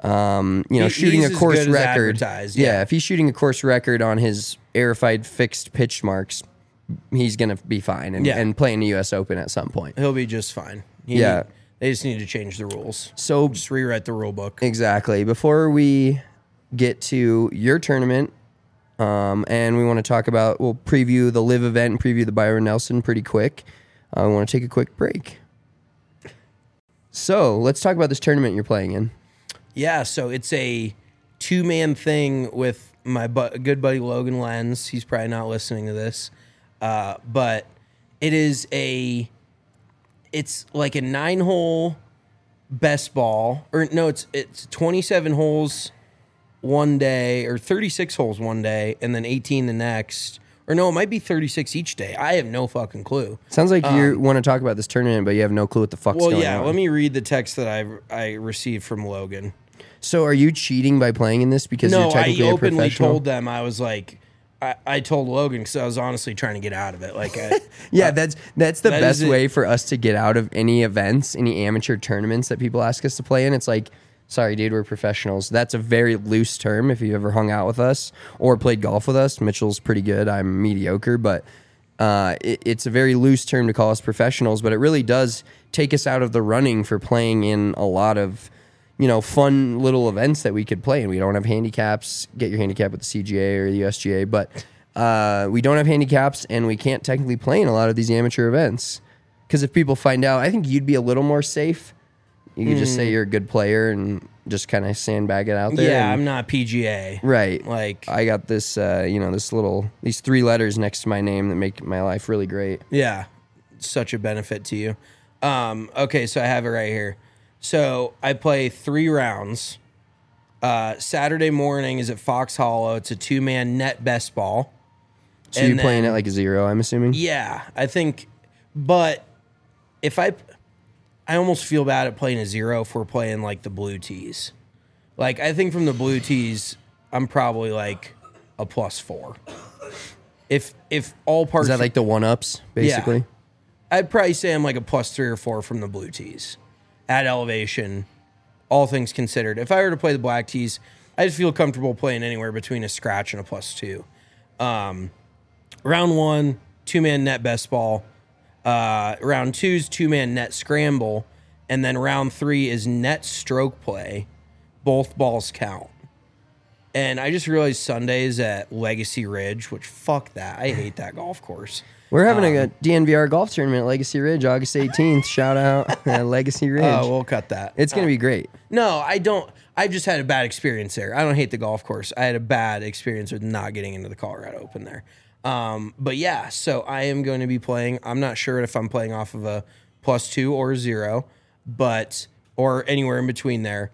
Speaker 6: um, you know,
Speaker 7: He-
Speaker 6: shooting
Speaker 7: he's
Speaker 6: a
Speaker 7: as
Speaker 6: course
Speaker 7: good as
Speaker 6: record,
Speaker 7: advertised,
Speaker 6: yeah.
Speaker 7: yeah.
Speaker 6: if he's shooting a course record on his airified fixed pitch marks, he's going to be fine and,
Speaker 7: Yeah.
Speaker 6: and play in the U S Open at some point.
Speaker 7: He'll be just fine. He
Speaker 6: Yeah.
Speaker 7: need- they just need to change the rules.
Speaker 6: So
Speaker 7: Just rewrite the rule book.
Speaker 6: exactly. Before we get to your tournament, um, and we want to talk about, we'll preview the live event and preview the Byron Nelson pretty quick. I want to take a quick break. So let's talk about this tournament you're playing in.
Speaker 7: Yeah, so it's a two-man thing with my bu- good buddy Logan Lenz. He's probably not listening to this, uh, but it is a, it's like a nine-hole best ball, or no, it's it's twenty-seven holes one day, or thirty-six holes one day, and then eighteen the next. Or no, it might be thirty-six each day. I have no fucking clue.
Speaker 6: Sounds like you want to talk about this tournament, but you have no clue what the fuck's
Speaker 7: Well,
Speaker 6: going
Speaker 7: yeah,
Speaker 6: on.
Speaker 7: let me read the text that I I received from Logan.
Speaker 6: So are you cheating by playing in this because
Speaker 7: No,
Speaker 6: you're
Speaker 7: I
Speaker 6: technically a
Speaker 7: openly
Speaker 6: professional?
Speaker 7: told them, I was like, I, I told Logan because I was honestly trying to get out of it. Like, I,
Speaker 6: Yeah, that's that's the
Speaker 7: that
Speaker 6: best
Speaker 7: is it.
Speaker 6: way for us to get out of any events, any amateur tournaments that people ask us to play in. It's like, sorry, dude, we're professionals. That's a very loose term if you ever hung out with us or played golf with us. Mitchell's pretty good. I'm mediocre, but uh, it, it's a very loose term to call us professionals, but it really does take us out of the running for playing in a lot of, you know, fun little events that we could play in. We don't have handicaps. Get your handicap with the C G A or the U S G A, but uh, we don't have handicaps, and we can't technically play in a lot of these amateur events. Because if people find out, I think you'd be a little more safe. You could just say you're a good player and just kind of sandbag it out there.
Speaker 7: yeah,
Speaker 6: and-
Speaker 7: I'm not P G A.
Speaker 6: right.
Speaker 7: Like,
Speaker 6: I got this, uh, you know, this little, these three letters next to my name that make my life really great.
Speaker 7: yeah, such a benefit to you. Um, okay, so I have it right here. So I play three rounds. Uh, Saturday morning is at Fox Hollow. It's a two-man net best ball.
Speaker 6: So
Speaker 7: And
Speaker 6: you're playing
Speaker 7: then-
Speaker 6: at like a zero, I'm assuming?
Speaker 7: Yeah, I think, but if I, I almost feel bad at playing a zero if we're playing like the blue tees. Like, I think from the blue tees, I'm probably like a plus four. If if all parts
Speaker 6: Is that like the one ups basically?
Speaker 7: Yeah. I'd probably say I'm like a plus three or four from the blue tees at elevation, all things considered. If I were to play the black tees, I just feel comfortable playing anywhere between a scratch and a plus two. Um, round one, two-man net best ball. Uh, round two's two-man net scramble. And then round three is net stroke play. Both balls count. And I just realized Sunday's at Legacy Ridge, which fuck that. I hate that golf course.
Speaker 6: We're having
Speaker 7: um,
Speaker 6: a D N V R golf tournament at Legacy Ridge, August eighteenth. Shout out at Legacy Ridge.
Speaker 7: Oh, we'll cut that.
Speaker 6: It's going to
Speaker 7: uh,
Speaker 6: be great.
Speaker 7: No, I don't. I just had a bad experience there. I don't hate the golf course. I had a bad experience with not getting into the Colorado Open there. Um, but yeah, so I am going to be playing. I'm not sure if I'm playing off of a plus two or a zero, but or anywhere in between there.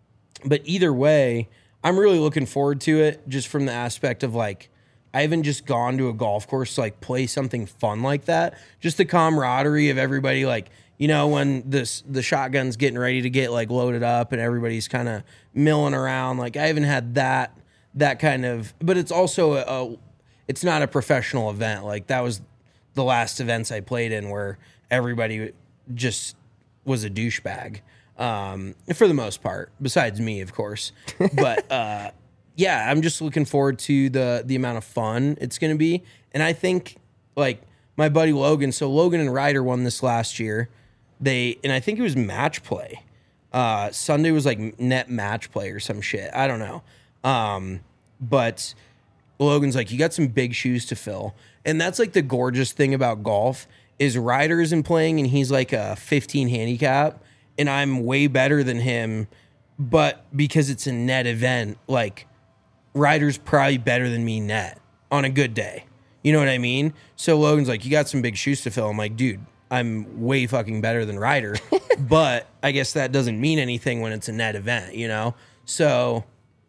Speaker 7: But either way, I'm really looking forward to it just from the aspect of like, I haven't just gone to a golf course to like play something fun like that. Just the camaraderie of everybody, like, you know, when this the shotgun's getting ready to get like loaded up and everybody's kind of milling around. Like I haven't had that that kind of, but it's also a, a it's not a professional event. Like that was the last events I played in where everybody just was a douchebag. Um, for the most part, besides me, of course. But uh, yeah, I'm just looking forward to the the amount of fun it's going to be. And I think like my buddy Logan, so Logan and Ryder won this last year. They and I think it was match play. Uh, Sunday was like net match play or some shit. I don't know. Um, but Logan's like, you got some big shoes to fill. And that's like the gorgeous thing about golf is Ryder isn't playing and he's like a fifteen handicap. And I'm way better than him, but because it's a net event, like Ryder's probably better than me net on a good day. You know what I mean? So Logan's like, you got some big shoes to fill. I'm like, dude, I'm way fucking better than Ryder, but I guess that doesn't mean anything when it's a net event, you know? So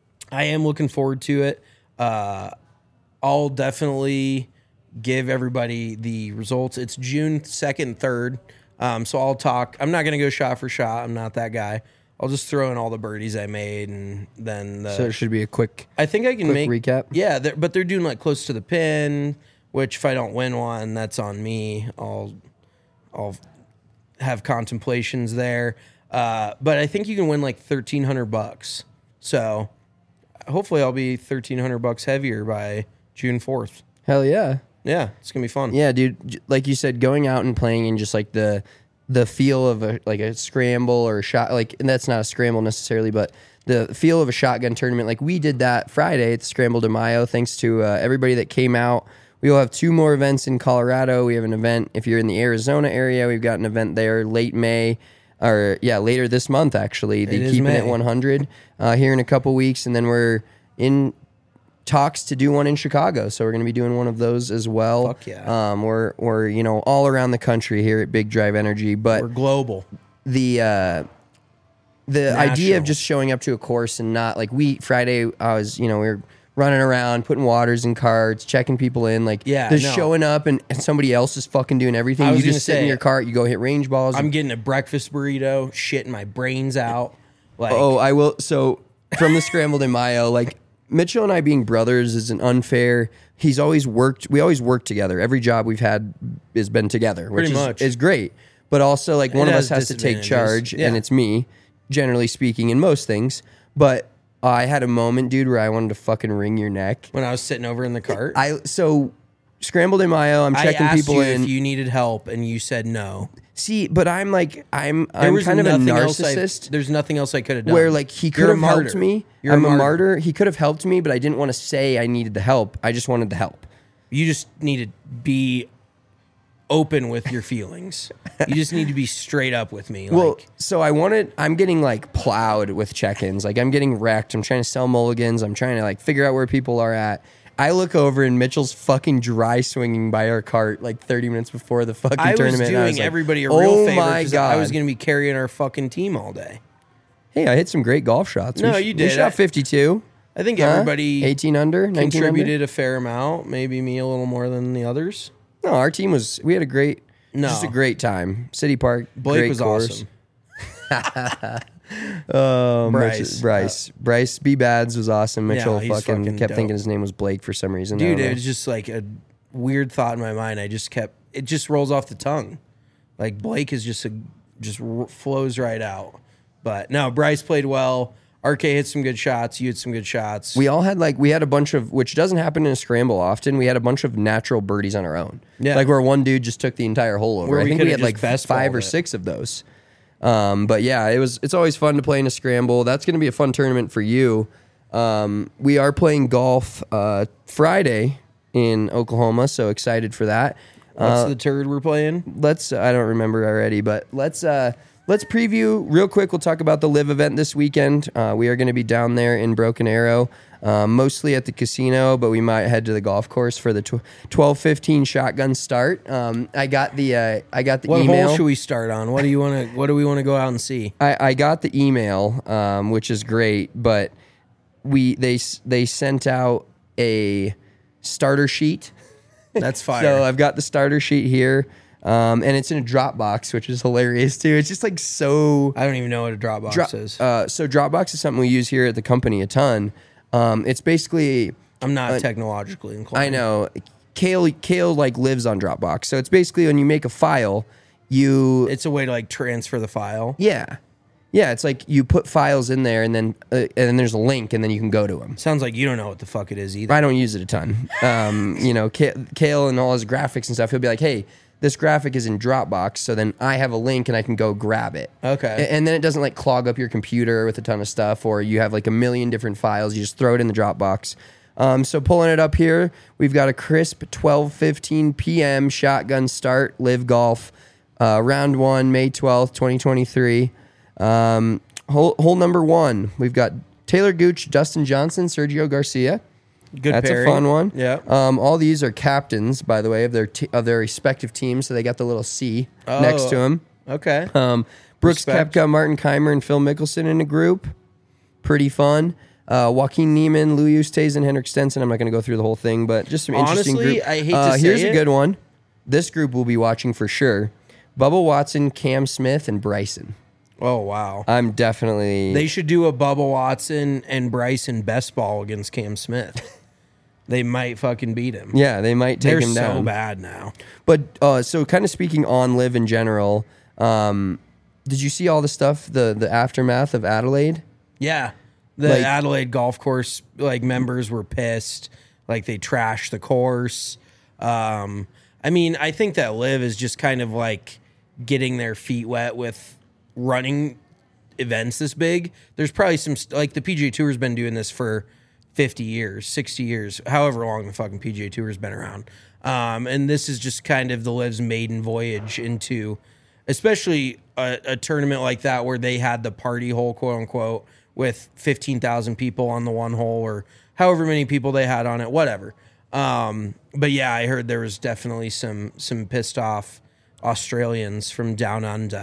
Speaker 7: I am looking forward to it. Uh, I'll definitely give everybody the results. It's June second, third. Um, so I'll talk. I'm not going to go shot for shot. I'm not that guy. I'll just throw in all the birdies I made, and then the,
Speaker 6: so it should be a quick.
Speaker 7: I think I can
Speaker 6: quick
Speaker 7: make
Speaker 6: recap.
Speaker 7: Yeah, they're, but they're doing like close to the pin, which if I don't win one, that's on me. I'll I'll have contemplations there. Uh, but I think you can win like thirteen hundred bucks. So hopefully I'll be thirteen hundred bucks heavier by June fourth.
Speaker 6: Hell yeah.
Speaker 7: Yeah, it's gonna be fun.
Speaker 6: Yeah, dude. Like you said, going out and playing in just like the the feel of a like a scramble or a shot, like, and that's not a scramble necessarily, but the feel of a shotgun tournament. Like we did that Friday at the Scramble de Mayo. Thanks to uh, everybody that came out. We will have two more events in Colorado. We have an event if you're in the Arizona area. We've got an event there late May, or yeah, later this month actually. The
Speaker 7: It
Speaker 6: Keeping
Speaker 7: May.
Speaker 6: It one hundred uh, here in a couple weeks, and then we're in talks to do one in Chicago, so we're going to be doing one of those as well.
Speaker 7: Fuck yeah.
Speaker 6: Um, we're we're you know all around the country here at Big Drive Energy, but
Speaker 7: We're global.
Speaker 6: the uh, the idea of
Speaker 7: National.
Speaker 6: just showing up to a course and not like we Friday, I was you know we were running around putting waters in carts, checking people in, like
Speaker 7: Yeah,
Speaker 6: just
Speaker 7: no.
Speaker 6: showing up and, and somebody else is fucking doing everything.
Speaker 7: I was
Speaker 6: You just
Speaker 7: gonna
Speaker 6: sit in
Speaker 7: say,
Speaker 6: your cart, you go hit range balls.
Speaker 7: I'm getting a breakfast burrito, shitting my brains out. Like,
Speaker 6: Oh, I will. So from the Scrambled in Mayo, like Mitchell and I being brothers is an unfair. He's always worked. We always work together. Every job we've had has been together, which
Speaker 7: Pretty
Speaker 6: is,
Speaker 7: much.
Speaker 6: is great. But also, like one
Speaker 7: It
Speaker 6: of us
Speaker 7: has
Speaker 6: has to take
Speaker 7: disadvantages.
Speaker 6: charge,
Speaker 7: Yeah.
Speaker 6: and it's me, generally speaking, in most things. But uh, I had a moment, dude, where I wanted to fucking wring your neck.
Speaker 7: when I was sitting over in the cart,
Speaker 6: I so Scrambled in Mayo. I'm
Speaker 7: I
Speaker 6: checking
Speaker 7: asked
Speaker 6: people
Speaker 7: you
Speaker 6: in.
Speaker 7: if you needed help, and you said no.
Speaker 6: See, but I'm like I'm
Speaker 7: There
Speaker 6: I'm
Speaker 7: was
Speaker 6: kind of a
Speaker 7: nothing else I-
Speaker 6: narcissist.
Speaker 7: There's nothing else I could have done.
Speaker 6: Where like he could
Speaker 7: You're a
Speaker 6: have helped
Speaker 7: martyr.
Speaker 6: me.
Speaker 7: You're
Speaker 6: I'm
Speaker 7: a
Speaker 6: a
Speaker 7: martyr.
Speaker 6: martyr. He could have helped me, but I didn't want to say I needed the help. I just wanted the help.
Speaker 7: You just need to be open with your feelings. You just need to be straight up with me.
Speaker 6: Well,
Speaker 7: Like,
Speaker 6: so I wanted. I'm getting like plowed with check-ins. Like I'm getting wrecked. I'm trying to sell mulligans. I'm trying to like figure out where people are at. I look over and Mitchell's fucking dry swinging by our cart like thirty minutes before the fucking
Speaker 7: I was
Speaker 6: tournament.
Speaker 7: doing
Speaker 6: and I was like,
Speaker 7: everybody a real
Speaker 6: oh
Speaker 7: favor
Speaker 6: my
Speaker 7: 'cause
Speaker 6: god!
Speaker 7: I was going to be carrying our fucking team all day.
Speaker 6: Hey, I hit some great golf shots.
Speaker 7: No,
Speaker 6: we, sh-
Speaker 7: you
Speaker 6: We
Speaker 7: did.
Speaker 6: shot fifty-two.
Speaker 7: I think
Speaker 6: Huh?
Speaker 7: everybody
Speaker 6: eighteen under, nineteen
Speaker 7: contributed
Speaker 6: under.
Speaker 7: a fair amount. Maybe me a little more than the others.
Speaker 6: No, our team was. We had a great,
Speaker 7: No.
Speaker 6: just a great time. City Park.
Speaker 7: Blake
Speaker 6: great
Speaker 7: was
Speaker 6: course.
Speaker 7: awesome.
Speaker 6: Um,
Speaker 7: Bryce.
Speaker 6: Mitch- Bryce. Uh, Bryce B. Bads was awesome. Mitchell
Speaker 7: Yeah, he's
Speaker 6: fucking,
Speaker 7: fucking
Speaker 6: kept
Speaker 7: dope.
Speaker 6: thinking his name was Blake for some reason. I
Speaker 7: Dude,
Speaker 6: don't know.
Speaker 7: it was just like a weird thought in my mind. I just kept, it just rolls off the tongue. Like Blake is just a, just r- flows right out. But no, Bryce played well. R K hit some good shots. You hit some good shots.
Speaker 6: We all had like we had a bunch of, which doesn't happen in a scramble often. We had a bunch of natural birdies on our own.
Speaker 7: Yeah.
Speaker 6: Like where one dude just took the entire hole over.
Speaker 7: Where
Speaker 6: I
Speaker 7: we
Speaker 6: think we
Speaker 7: could've
Speaker 6: had like
Speaker 7: just best
Speaker 6: five
Speaker 7: balled
Speaker 6: or
Speaker 7: it.
Speaker 6: six of those. Um, but yeah, it was. It's always fun to play in a scramble. That's going to be a fun tournament for you. Um, we are playing golf uh, Friday in Oklahoma, so excited for that.
Speaker 7: What's
Speaker 6: Uh,
Speaker 7: the turd we're playing?
Speaker 6: let's I don't remember already, but let's uh let's preview real quick. We'll talk about the live event this weekend. Uh, we are going to be down there in Broken Arrow, um, mostly at the casino, but we might head to the golf course for the tw- twelve fifteen shotgun start. Um, I got the uh, I got the
Speaker 7: What
Speaker 6: email.
Speaker 7: hole should we start on? What do you want to? What do we want to go out and see?
Speaker 6: I, I got the email, um, which is great, but we they s- they sent out a starter sheet.
Speaker 7: That's fire.
Speaker 6: So I've got the starter sheet here, um, and it's in a Dropbox, which is hilarious too. It's just like so.
Speaker 7: I don't even know what a Dropbox
Speaker 6: Dro-
Speaker 7: is.
Speaker 6: uh, so Dropbox is something we use here at the company a ton. Um, it's basically
Speaker 7: I'm not
Speaker 6: uh,
Speaker 7: technologically inclined.
Speaker 6: I know Kale Kale like lives on Dropbox, so it's basically when you make a file, you
Speaker 7: It's a way to like transfer the file.
Speaker 6: yeah yeah it's like you put files in there and then uh, and then there's a link and then you can go to them.
Speaker 7: Sounds like you don't know what the fuck it is either.
Speaker 6: I don't use it a ton. Um, you know, Kale, Kale and all his graphics and stuff, he'll be like, hey, this graphic is in Dropbox, so then I have a link and I can go grab it.
Speaker 7: Okay.
Speaker 6: A- And then it doesn't like clog up your computer with a ton of stuff, or you have like a million different files. You just throw it in the Dropbox. Um, so pulling it up here, we've got a crisp twelve fifteen p.m. shotgun start, live golf, uh, round one, May twelfth, twenty twenty-three. Um, hole, hole number one, we've got Taylor Gooch, Dustin Johnson, Sergio Garcia.
Speaker 7: Good
Speaker 6: That's
Speaker 7: pairing.
Speaker 6: a fun one.
Speaker 7: Yeah.
Speaker 6: Um, all these are captains, by the way, of their te- of their respective teams. So they got the little C next to them.
Speaker 7: Okay.
Speaker 6: Um, Brooks
Speaker 7: Respect.
Speaker 6: Koepka, Martin Keimer, and Phil Mickelson in a group. Pretty fun. Uh, Joaquin Neiman, Lou Eustace, and Henrik Stenson. I'm not going to go through the whole thing, but just some interesting
Speaker 7: Honestly,
Speaker 6: group.
Speaker 7: I hate to
Speaker 6: uh,
Speaker 7: say
Speaker 6: Here's
Speaker 7: it.
Speaker 6: a good one. This group we'll be watching for sure. Bubba Watson, Cam Smith, and Bryson.
Speaker 7: Oh wow.
Speaker 6: I'm definitely...
Speaker 7: They should do a Bubba Watson and Bryson best ball against Cam Smith. They might fucking beat him.
Speaker 6: yeah, they might take
Speaker 7: They're
Speaker 6: him down.
Speaker 7: so bad now.
Speaker 6: But uh, so kind of speaking on live in general, um, did you see all the stuff, the the aftermath of Adelaide?
Speaker 7: Yeah. The
Speaker 6: Like-
Speaker 7: Adelaide golf course like members were pissed. Like they trashed the course. Um, I mean, I think that live is just kind of like getting their feet wet with running events this big. There's probably some st- like the P G A Tour's been doing this for fifty years, sixty years, however long the fucking P G A Tour's been around. Um, and this is just kind of the Live's maiden voyage into, especially a, a tournament like that where they had the party hole, quote unquote, with fifteen thousand people on the one hole or however many people they had on it, whatever. Um, but yeah, I heard there was definitely some some pissed off Australians from down under.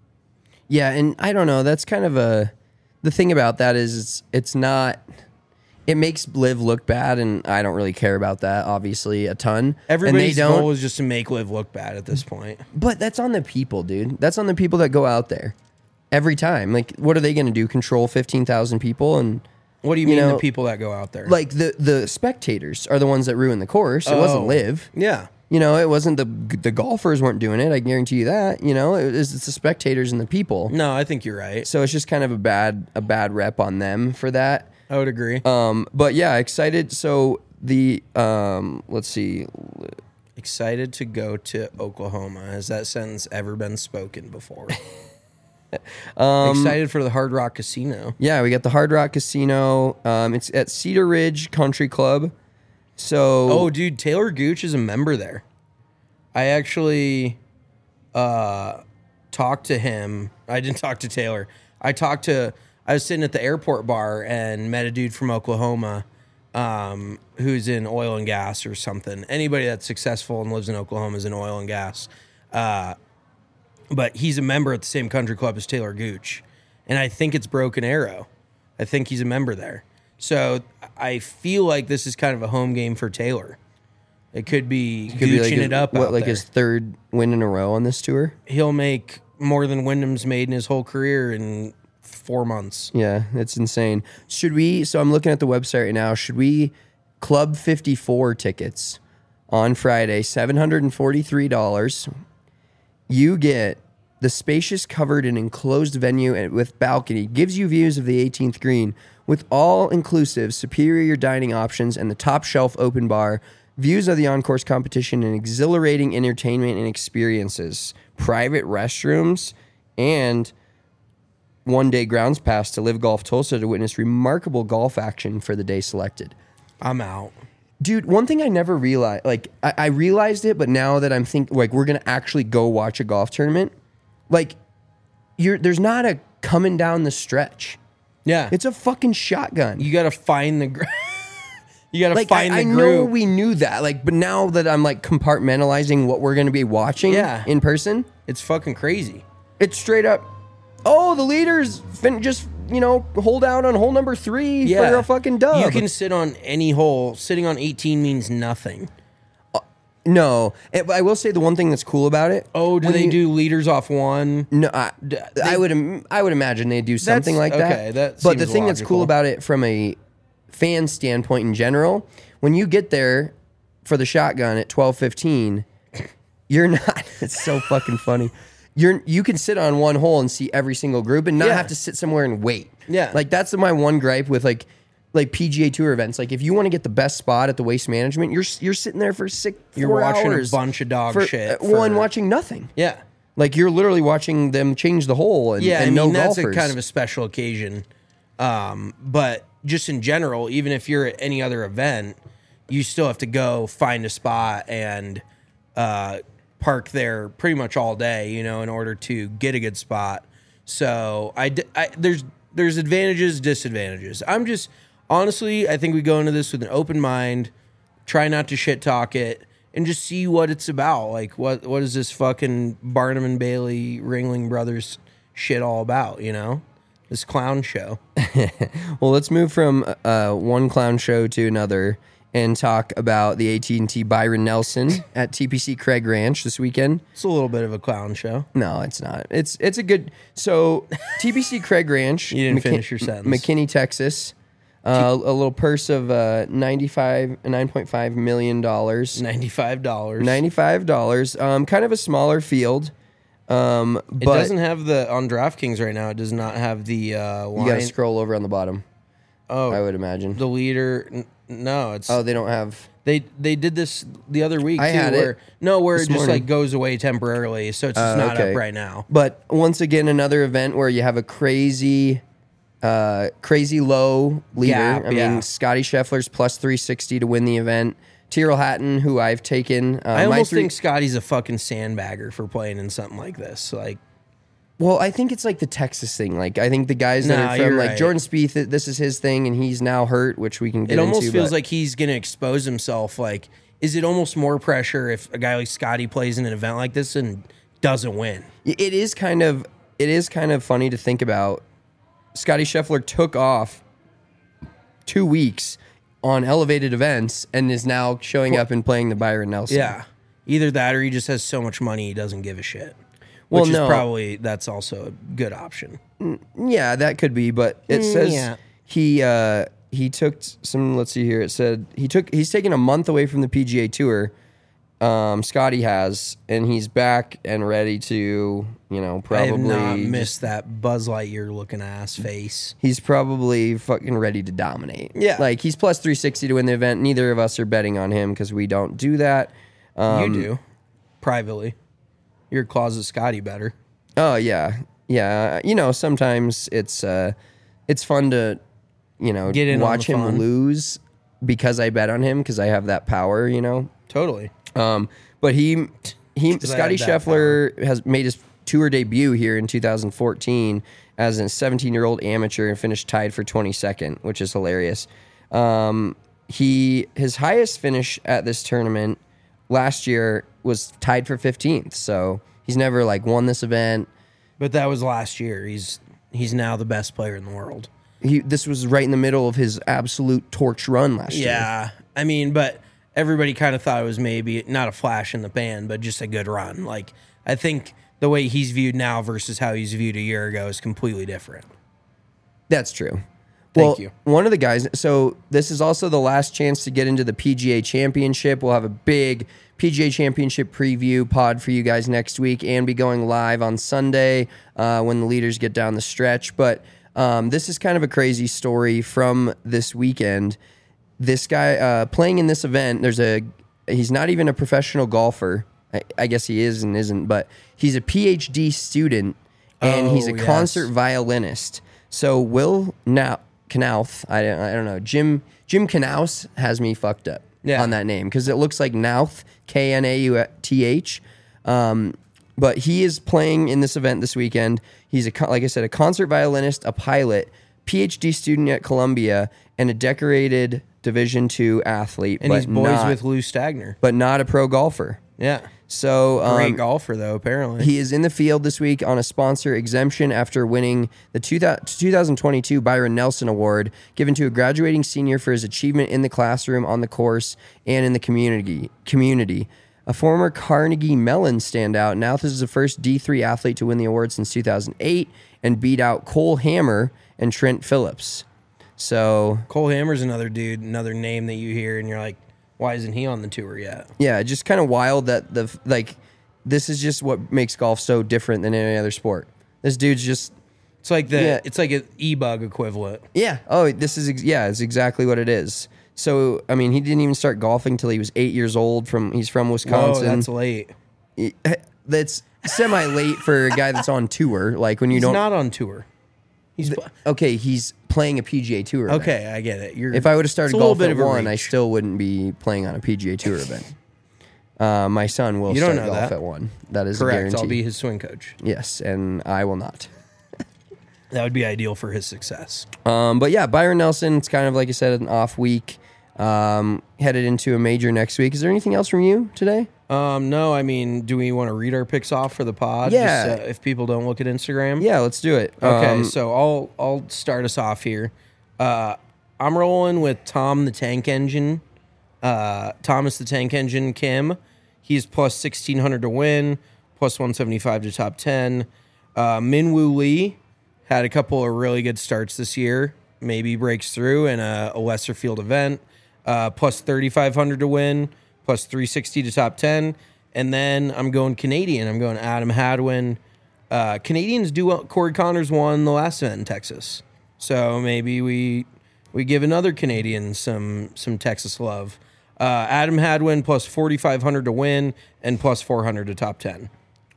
Speaker 6: Yeah, and I don't know. That's kind of a the thing about that is it's it's not. It makes live look bad, and I don't really care about that. Obviously, a ton.
Speaker 7: Everybody's
Speaker 6: and they don't,
Speaker 7: goal was just to make Live look bad at this point.
Speaker 6: But that's on the people, dude. That's on the people that go out there every time. Like, what are they going to do? Control fifteen thousand people? And
Speaker 7: What do you,
Speaker 6: You
Speaker 7: mean
Speaker 6: know,
Speaker 7: the people that go out there?
Speaker 6: like the the spectators are the ones that ruin the course. It wasn't
Speaker 7: Oh.
Speaker 6: live.
Speaker 7: Yeah.
Speaker 6: You know, it wasn't the the golfers weren't doing it. I guarantee you that. You know, it was, it's the spectators and the people.
Speaker 7: No, I think you're right.
Speaker 6: So it's just kind of a bad a bad rep on them for that.
Speaker 7: I would agree.
Speaker 6: Um, but yeah, excited. So the um, let's see.
Speaker 7: Excited to go to Oklahoma. Has that sentence ever been spoken before?
Speaker 6: Um,
Speaker 7: Excited for the Hard Rock Casino.
Speaker 6: Yeah, we got the Hard Rock Casino. Um, it's at Cedar Ridge Country Club. So
Speaker 7: Oh, dude, Taylor Gooch is a member there. I actually uh, talked to him. I didn't talk to Taylor. I talked to, I was sitting at the airport bar and met a dude from Oklahoma um, who's in oil and gas or something. Anybody that's successful and lives in Oklahoma is in oil and gas. Uh, but he's a member at the same country club as Taylor Gooch. And I think it's Broken Arrow. I think he's a member there. So I feel like this is kind of a home game for Taylor. It could be
Speaker 6: could be
Speaker 7: gooching
Speaker 6: like his,
Speaker 7: it up
Speaker 6: what,
Speaker 7: out
Speaker 6: like
Speaker 7: there.
Speaker 6: his third win in a row on this tour.
Speaker 7: He'll make more than Wyndham's made in his whole career in four months.
Speaker 6: Yeah, it's insane. Should we, so I'm looking at the website right now, should we Club fifty-four tickets on Friday, seven hundred forty-three dollars. You get the spacious, covered and enclosed venue and with balcony, gives you views of the eighteenth green with all-inclusive superior dining options and the top shelf open bar, views of the on-course competition and exhilarating entertainment and experiences, private restrooms, and one-day grounds pass to Live Golf Tulsa to witness remarkable golf action for the day selected.
Speaker 7: I'm out.
Speaker 6: Dude, one thing I never realized, like, I, I realized it, but now that I'm thinking, like, we're going to actually go watch a golf tournament, like, you're there's not a coming down the stretch.
Speaker 7: Yeah.
Speaker 6: It's a fucking shotgun.
Speaker 7: You got to find the... Gr- you got to
Speaker 6: like,
Speaker 7: find
Speaker 6: I,
Speaker 7: the
Speaker 6: I
Speaker 7: group.
Speaker 6: know we knew that, like, but now that I'm, like, compartmentalizing what we're going to be watching
Speaker 7: Yeah.
Speaker 6: in person,
Speaker 7: It's fucking crazy.
Speaker 6: it's straight up, oh, the leaders fin- just, you know, hold out on hole number three
Speaker 7: Yeah.
Speaker 6: for a fucking dub.
Speaker 7: You can sit on any hole. Sitting on eighteen means nothing.
Speaker 6: No, Eh, but I will say the one thing that's cool about it.
Speaker 7: Oh, do
Speaker 6: when
Speaker 7: they
Speaker 6: you-
Speaker 7: do leaders off one?
Speaker 6: No, I, I would im- I would imagine they do something like that.
Speaker 7: okay, that
Speaker 6: but the
Speaker 7: seems
Speaker 6: thing that's cool
Speaker 7: logical.
Speaker 6: about it from a fan standpoint in general, when you get there for the shotgun at twelve fifteen, you're not. It's so fucking funny. You're you can sit on one hole and see every single group and not
Speaker 7: Yeah.
Speaker 6: have to sit somewhere and wait.
Speaker 7: Yeah.
Speaker 6: like that's my one gripe with like. Like P G A Tour events, like if you want to get the best spot at the Waste Management, you're you're sitting there for six.
Speaker 7: You're
Speaker 6: four
Speaker 7: watching a
Speaker 6: hours
Speaker 7: bunch of dog
Speaker 6: for,
Speaker 7: shit
Speaker 6: uh, One
Speaker 7: for-
Speaker 6: watching nothing.
Speaker 7: Yeah.
Speaker 6: Like you're literally watching them change the hole and,
Speaker 7: Yeah,
Speaker 6: and
Speaker 7: I mean,
Speaker 6: no
Speaker 7: that's
Speaker 6: golfers.
Speaker 7: a kind of a special occasion. Um, but just in general, even if you're at any other event, you still have to go find a spot and uh, park there pretty much all day, you know, in order to get a good spot. So I, d- I- there's there's advantages, disadvantages. I'm just honestly, I think we go into this with an open mind, try not to shit talk it, and just see what it's about. Like, what what is this fucking Barnum and Bailey Ringling Brothers shit all about, you know? This clown show.
Speaker 6: Well, let's move from uh, one clown show to another and talk about the A T and T Byron Nelson at T P C Craig Ranch this weekend.
Speaker 7: It's a little bit of a clown show.
Speaker 6: No, it's not. It's it's a good. So T P C Craig Ranch.
Speaker 7: You didn't finish your sentence.
Speaker 6: McKinney, Texas. Uh, a little purse of uh, ninety-five, nine point five million dollars.
Speaker 7: ninety-five dollars.
Speaker 6: Ninety-five dollars. Um, kind of a smaller field. Um,
Speaker 7: It
Speaker 6: but
Speaker 7: doesn't have the, on DraftKings right now, it does not have the uh, line.
Speaker 6: you got to scroll over on the bottom.
Speaker 7: Oh,
Speaker 6: I would imagine.
Speaker 7: the leader. n- No, it's.
Speaker 6: Oh, they don't have.
Speaker 7: They they did this the other week
Speaker 6: I
Speaker 7: too,
Speaker 6: had it
Speaker 7: where no, where
Speaker 6: this
Speaker 7: it just
Speaker 6: morning.
Speaker 7: like goes away temporarily, so it's just
Speaker 6: Uh,
Speaker 7: not
Speaker 6: okay.
Speaker 7: up right now.
Speaker 6: But once again, another event where you have a crazy, uh, crazy low leader.
Speaker 7: Gap,
Speaker 6: I mean,
Speaker 7: yeah.
Speaker 6: Scotty Scheffler's plus three sixty to win the event. Tyrrell Hatton, who I've taken. Uh,
Speaker 7: I
Speaker 6: my
Speaker 7: almost
Speaker 6: three-
Speaker 7: think Scotty's a fucking sandbagger for playing in something like this. Like,
Speaker 6: Well, I think it's like the Texas thing. Like, I think the guys that
Speaker 7: Nah,
Speaker 6: are from
Speaker 7: you're
Speaker 6: like
Speaker 7: right.
Speaker 6: Jordan Spieth, th- this is his thing, and he's now hurt, which we can get
Speaker 7: it almost
Speaker 6: into,
Speaker 7: feels
Speaker 6: but-
Speaker 7: like he's going to expose himself. Like, is it almost more pressure if a guy like Scotty plays in an event like this and doesn't win?
Speaker 6: It is kind of it is kind of funny to think about. Scotty Scheffler took off two weeks on elevated events and is now showing up and playing the Byron Nelson.
Speaker 7: Yeah. Either that or he just has so much money he doesn't give a shit.
Speaker 6: Well,
Speaker 7: Which
Speaker 6: no.
Speaker 7: is probably, that's also a good option.
Speaker 6: Yeah, that could be, but it
Speaker 7: Mm,
Speaker 6: says
Speaker 7: yeah.
Speaker 6: he uh, he took some. Let's see here. It said he took he's taken a month away from the P G A Tour. Um, Scotty has, and he's back and ready to, you know, probably.
Speaker 7: I have not
Speaker 6: just-
Speaker 7: missed that Buzz Lightyear looking ass face.
Speaker 6: He's probably fucking ready to dominate.
Speaker 7: Yeah.
Speaker 6: like he's plus three sixty to win the event. Neither of us are betting on him because we don't do that. Um,
Speaker 7: you do. Privately. Your closet Scotty better.
Speaker 6: Oh yeah, yeah. You know, sometimes it's uh, it's fun to, you know,
Speaker 7: Get in on
Speaker 6: watch
Speaker 7: the
Speaker 6: him
Speaker 7: fun.
Speaker 6: lose because I bet on him because I have that power. You know.
Speaker 7: Totally.
Speaker 6: Um, but he he
Speaker 7: 'Cause I
Speaker 6: Scotty
Speaker 7: have that
Speaker 6: Scheffler has made his tour debut here in two thousand fourteen as a seventeen-year-old amateur and finished tied for twenty-second, which is hilarious. Um, he his highest finish at this tournament last year was tied for fifteenth, so he's never like won this event.
Speaker 7: But that was last year. He's he's now the best player in the world.
Speaker 6: He this was right in the middle of his absolute torch run last year.
Speaker 7: Yeah. I mean, but everybody kind of thought it was maybe not a flash in the pan, but just a good run. Like, I think the way he's viewed now versus how he's viewed a year ago is completely different.
Speaker 6: That's true.
Speaker 7: Thank
Speaker 6: well,
Speaker 7: you.
Speaker 6: One of the guys, so this is also the last chance to get into the P G A Championship. We'll have a big P G A Championship preview pod for you guys next week and be going live on Sunday uh, when the leaders get down the stretch. But um, this is kind of a crazy story from this weekend. This guy uh, playing in this event, there's a, he's not even a professional golfer. I, I guess he is and isn't, but he's a P H D student and
Speaker 7: Oh,
Speaker 6: he's a
Speaker 7: yes.
Speaker 6: concert violinist. So Will now. Knauth, I don't, I don't know. Jim Jim Knaus has me fucked up
Speaker 7: Yeah.
Speaker 6: on that name because it looks like Knauth, K N A U T H. Um, but he is playing in this event this weekend. He's a co- like I said, a concert violinist, a pilot, P H D student at Columbia, and a decorated Division two athlete.
Speaker 7: And
Speaker 6: but
Speaker 7: he's boys
Speaker 6: not,
Speaker 7: with Lou Stagner.
Speaker 6: but not a pro golfer.
Speaker 7: Yeah.
Speaker 6: So um,
Speaker 7: Great golfer, though, apparently.
Speaker 6: he is in the field this week on a sponsor exemption after winning the two thousand twenty-two Byron Nelson Award, given to a graduating senior for his achievement in the classroom, on the course, and in the community. Community. A former Carnegie Mellon standout, Knauth is the first D three athlete to win the award since two thousand eight and beat out Cole Hammer and Trent Phillips. So
Speaker 7: Cole Hammer's another dude, another name that you hear, and you're like, why isn't he on the tour yet?
Speaker 6: yeah, just kind of wild that the like this is just what makes golf so different than any other sport. This dude's just
Speaker 7: It's like the
Speaker 6: Yeah.
Speaker 7: it's like an e-bug equivalent.
Speaker 6: yeah. Oh, this is ex- yeah, it's exactly what it is. So I mean, he didn't even start golfing till he was eight years old. From he's from
Speaker 7: Whoa,
Speaker 6: Wisconsin.
Speaker 7: that's late.
Speaker 6: He- that's semi late for a guy that's on tour. Like when you
Speaker 7: He's
Speaker 6: don't.
Speaker 7: not on tour. He's pl-
Speaker 6: okay, he's playing a P G A Tour event.
Speaker 7: okay. I get it. You're
Speaker 6: If I would have started
Speaker 7: it's a little
Speaker 6: golf
Speaker 7: bit
Speaker 6: at
Speaker 7: of a
Speaker 6: one, I
Speaker 7: reach.
Speaker 6: still wouldn't be playing on a P G A Tour event. Uh, my son will
Speaker 7: You don't
Speaker 6: start
Speaker 7: know
Speaker 6: golf
Speaker 7: that.
Speaker 6: at one. That is a
Speaker 7: correct.
Speaker 6: guarantee.
Speaker 7: I'll be his swing coach.
Speaker 6: Yes, and I will not.
Speaker 7: That would be ideal for his success.
Speaker 6: Um, but yeah, Byron Nelson, it's kind of like I said, an off week. Um, headed into a major next week. Is there anything else from you today?
Speaker 7: Um, no, I mean, do we want to read our picks off for the pod?
Speaker 6: Yeah.
Speaker 7: Just, uh, if people don't look at Instagram.
Speaker 6: Yeah, let's do it.
Speaker 7: Okay,
Speaker 6: Um,
Speaker 7: so I'll I'll start us off here. Uh, I'm rolling with Tom the Tank Engine, uh, Thomas the Tank Engine Kim. He's plus sixteen hundred to win, plus one seventy-five to top ten. Uh, Minwoo Lee had a couple of really good starts this year. Maybe breaks through in a, a lesser field event. Uh, plus thirty-five hundred to win, plus three sixty to top ten. And then I'm going Canadian. I'm going Adam Hadwin. Uh, Canadians do well. Corey Connors won the last event in Texas. So maybe we we give another Canadian some some Texas love. Uh, Adam Hadwin plus forty-five hundred to win and plus four hundred to top ten.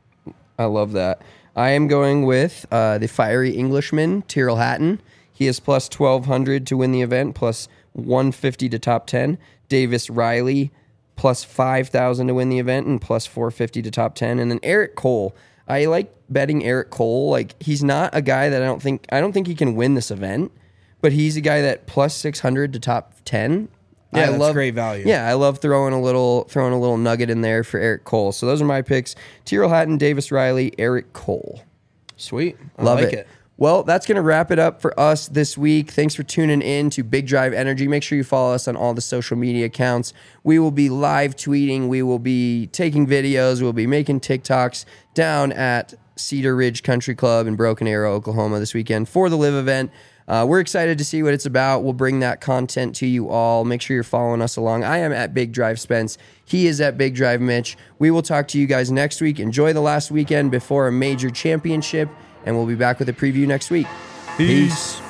Speaker 6: I love that. I am going with uh, the fiery Englishman, Tyrrell Hatton. He is plus twelve hundred to win the event, plus one fifty to top ten. Davis Riley, plus five thousand to win the event, and plus four fifty to top ten. And then Eric Cole. I like betting Eric Cole. Like, he's not a guy that I don't think, I don't think he can win this event, but he's a guy that plus six hundred to top ten.
Speaker 7: Yeah,
Speaker 6: I
Speaker 7: that's
Speaker 6: love,
Speaker 7: great value.
Speaker 6: Yeah, I love throwing a little throwing a little nugget in there for Eric Cole. So those are my picks: Tyrrell Hatton, Davis Riley, Eric Cole.
Speaker 7: Sweet. I
Speaker 6: Love
Speaker 7: like
Speaker 6: it.
Speaker 7: it.
Speaker 6: Well, that's going to wrap it up for us this week. Thanks for tuning in to Big Drive Energy. Make sure you follow us on all the social media accounts. We will be live tweeting. We will be taking videos. We'll be making TikToks down at Cedar Ridge Country Club in Broken Arrow, Oklahoma this weekend for the Live event. Uh, we're excited to see what it's about. We'll bring that content to you all. Make sure you're following us along. I am at Big Drive Spence. He is at Big Drive Mitch. We will talk to you guys next week. Enjoy the last weekend before a major championship, and we'll be back with a preview next week. Peace.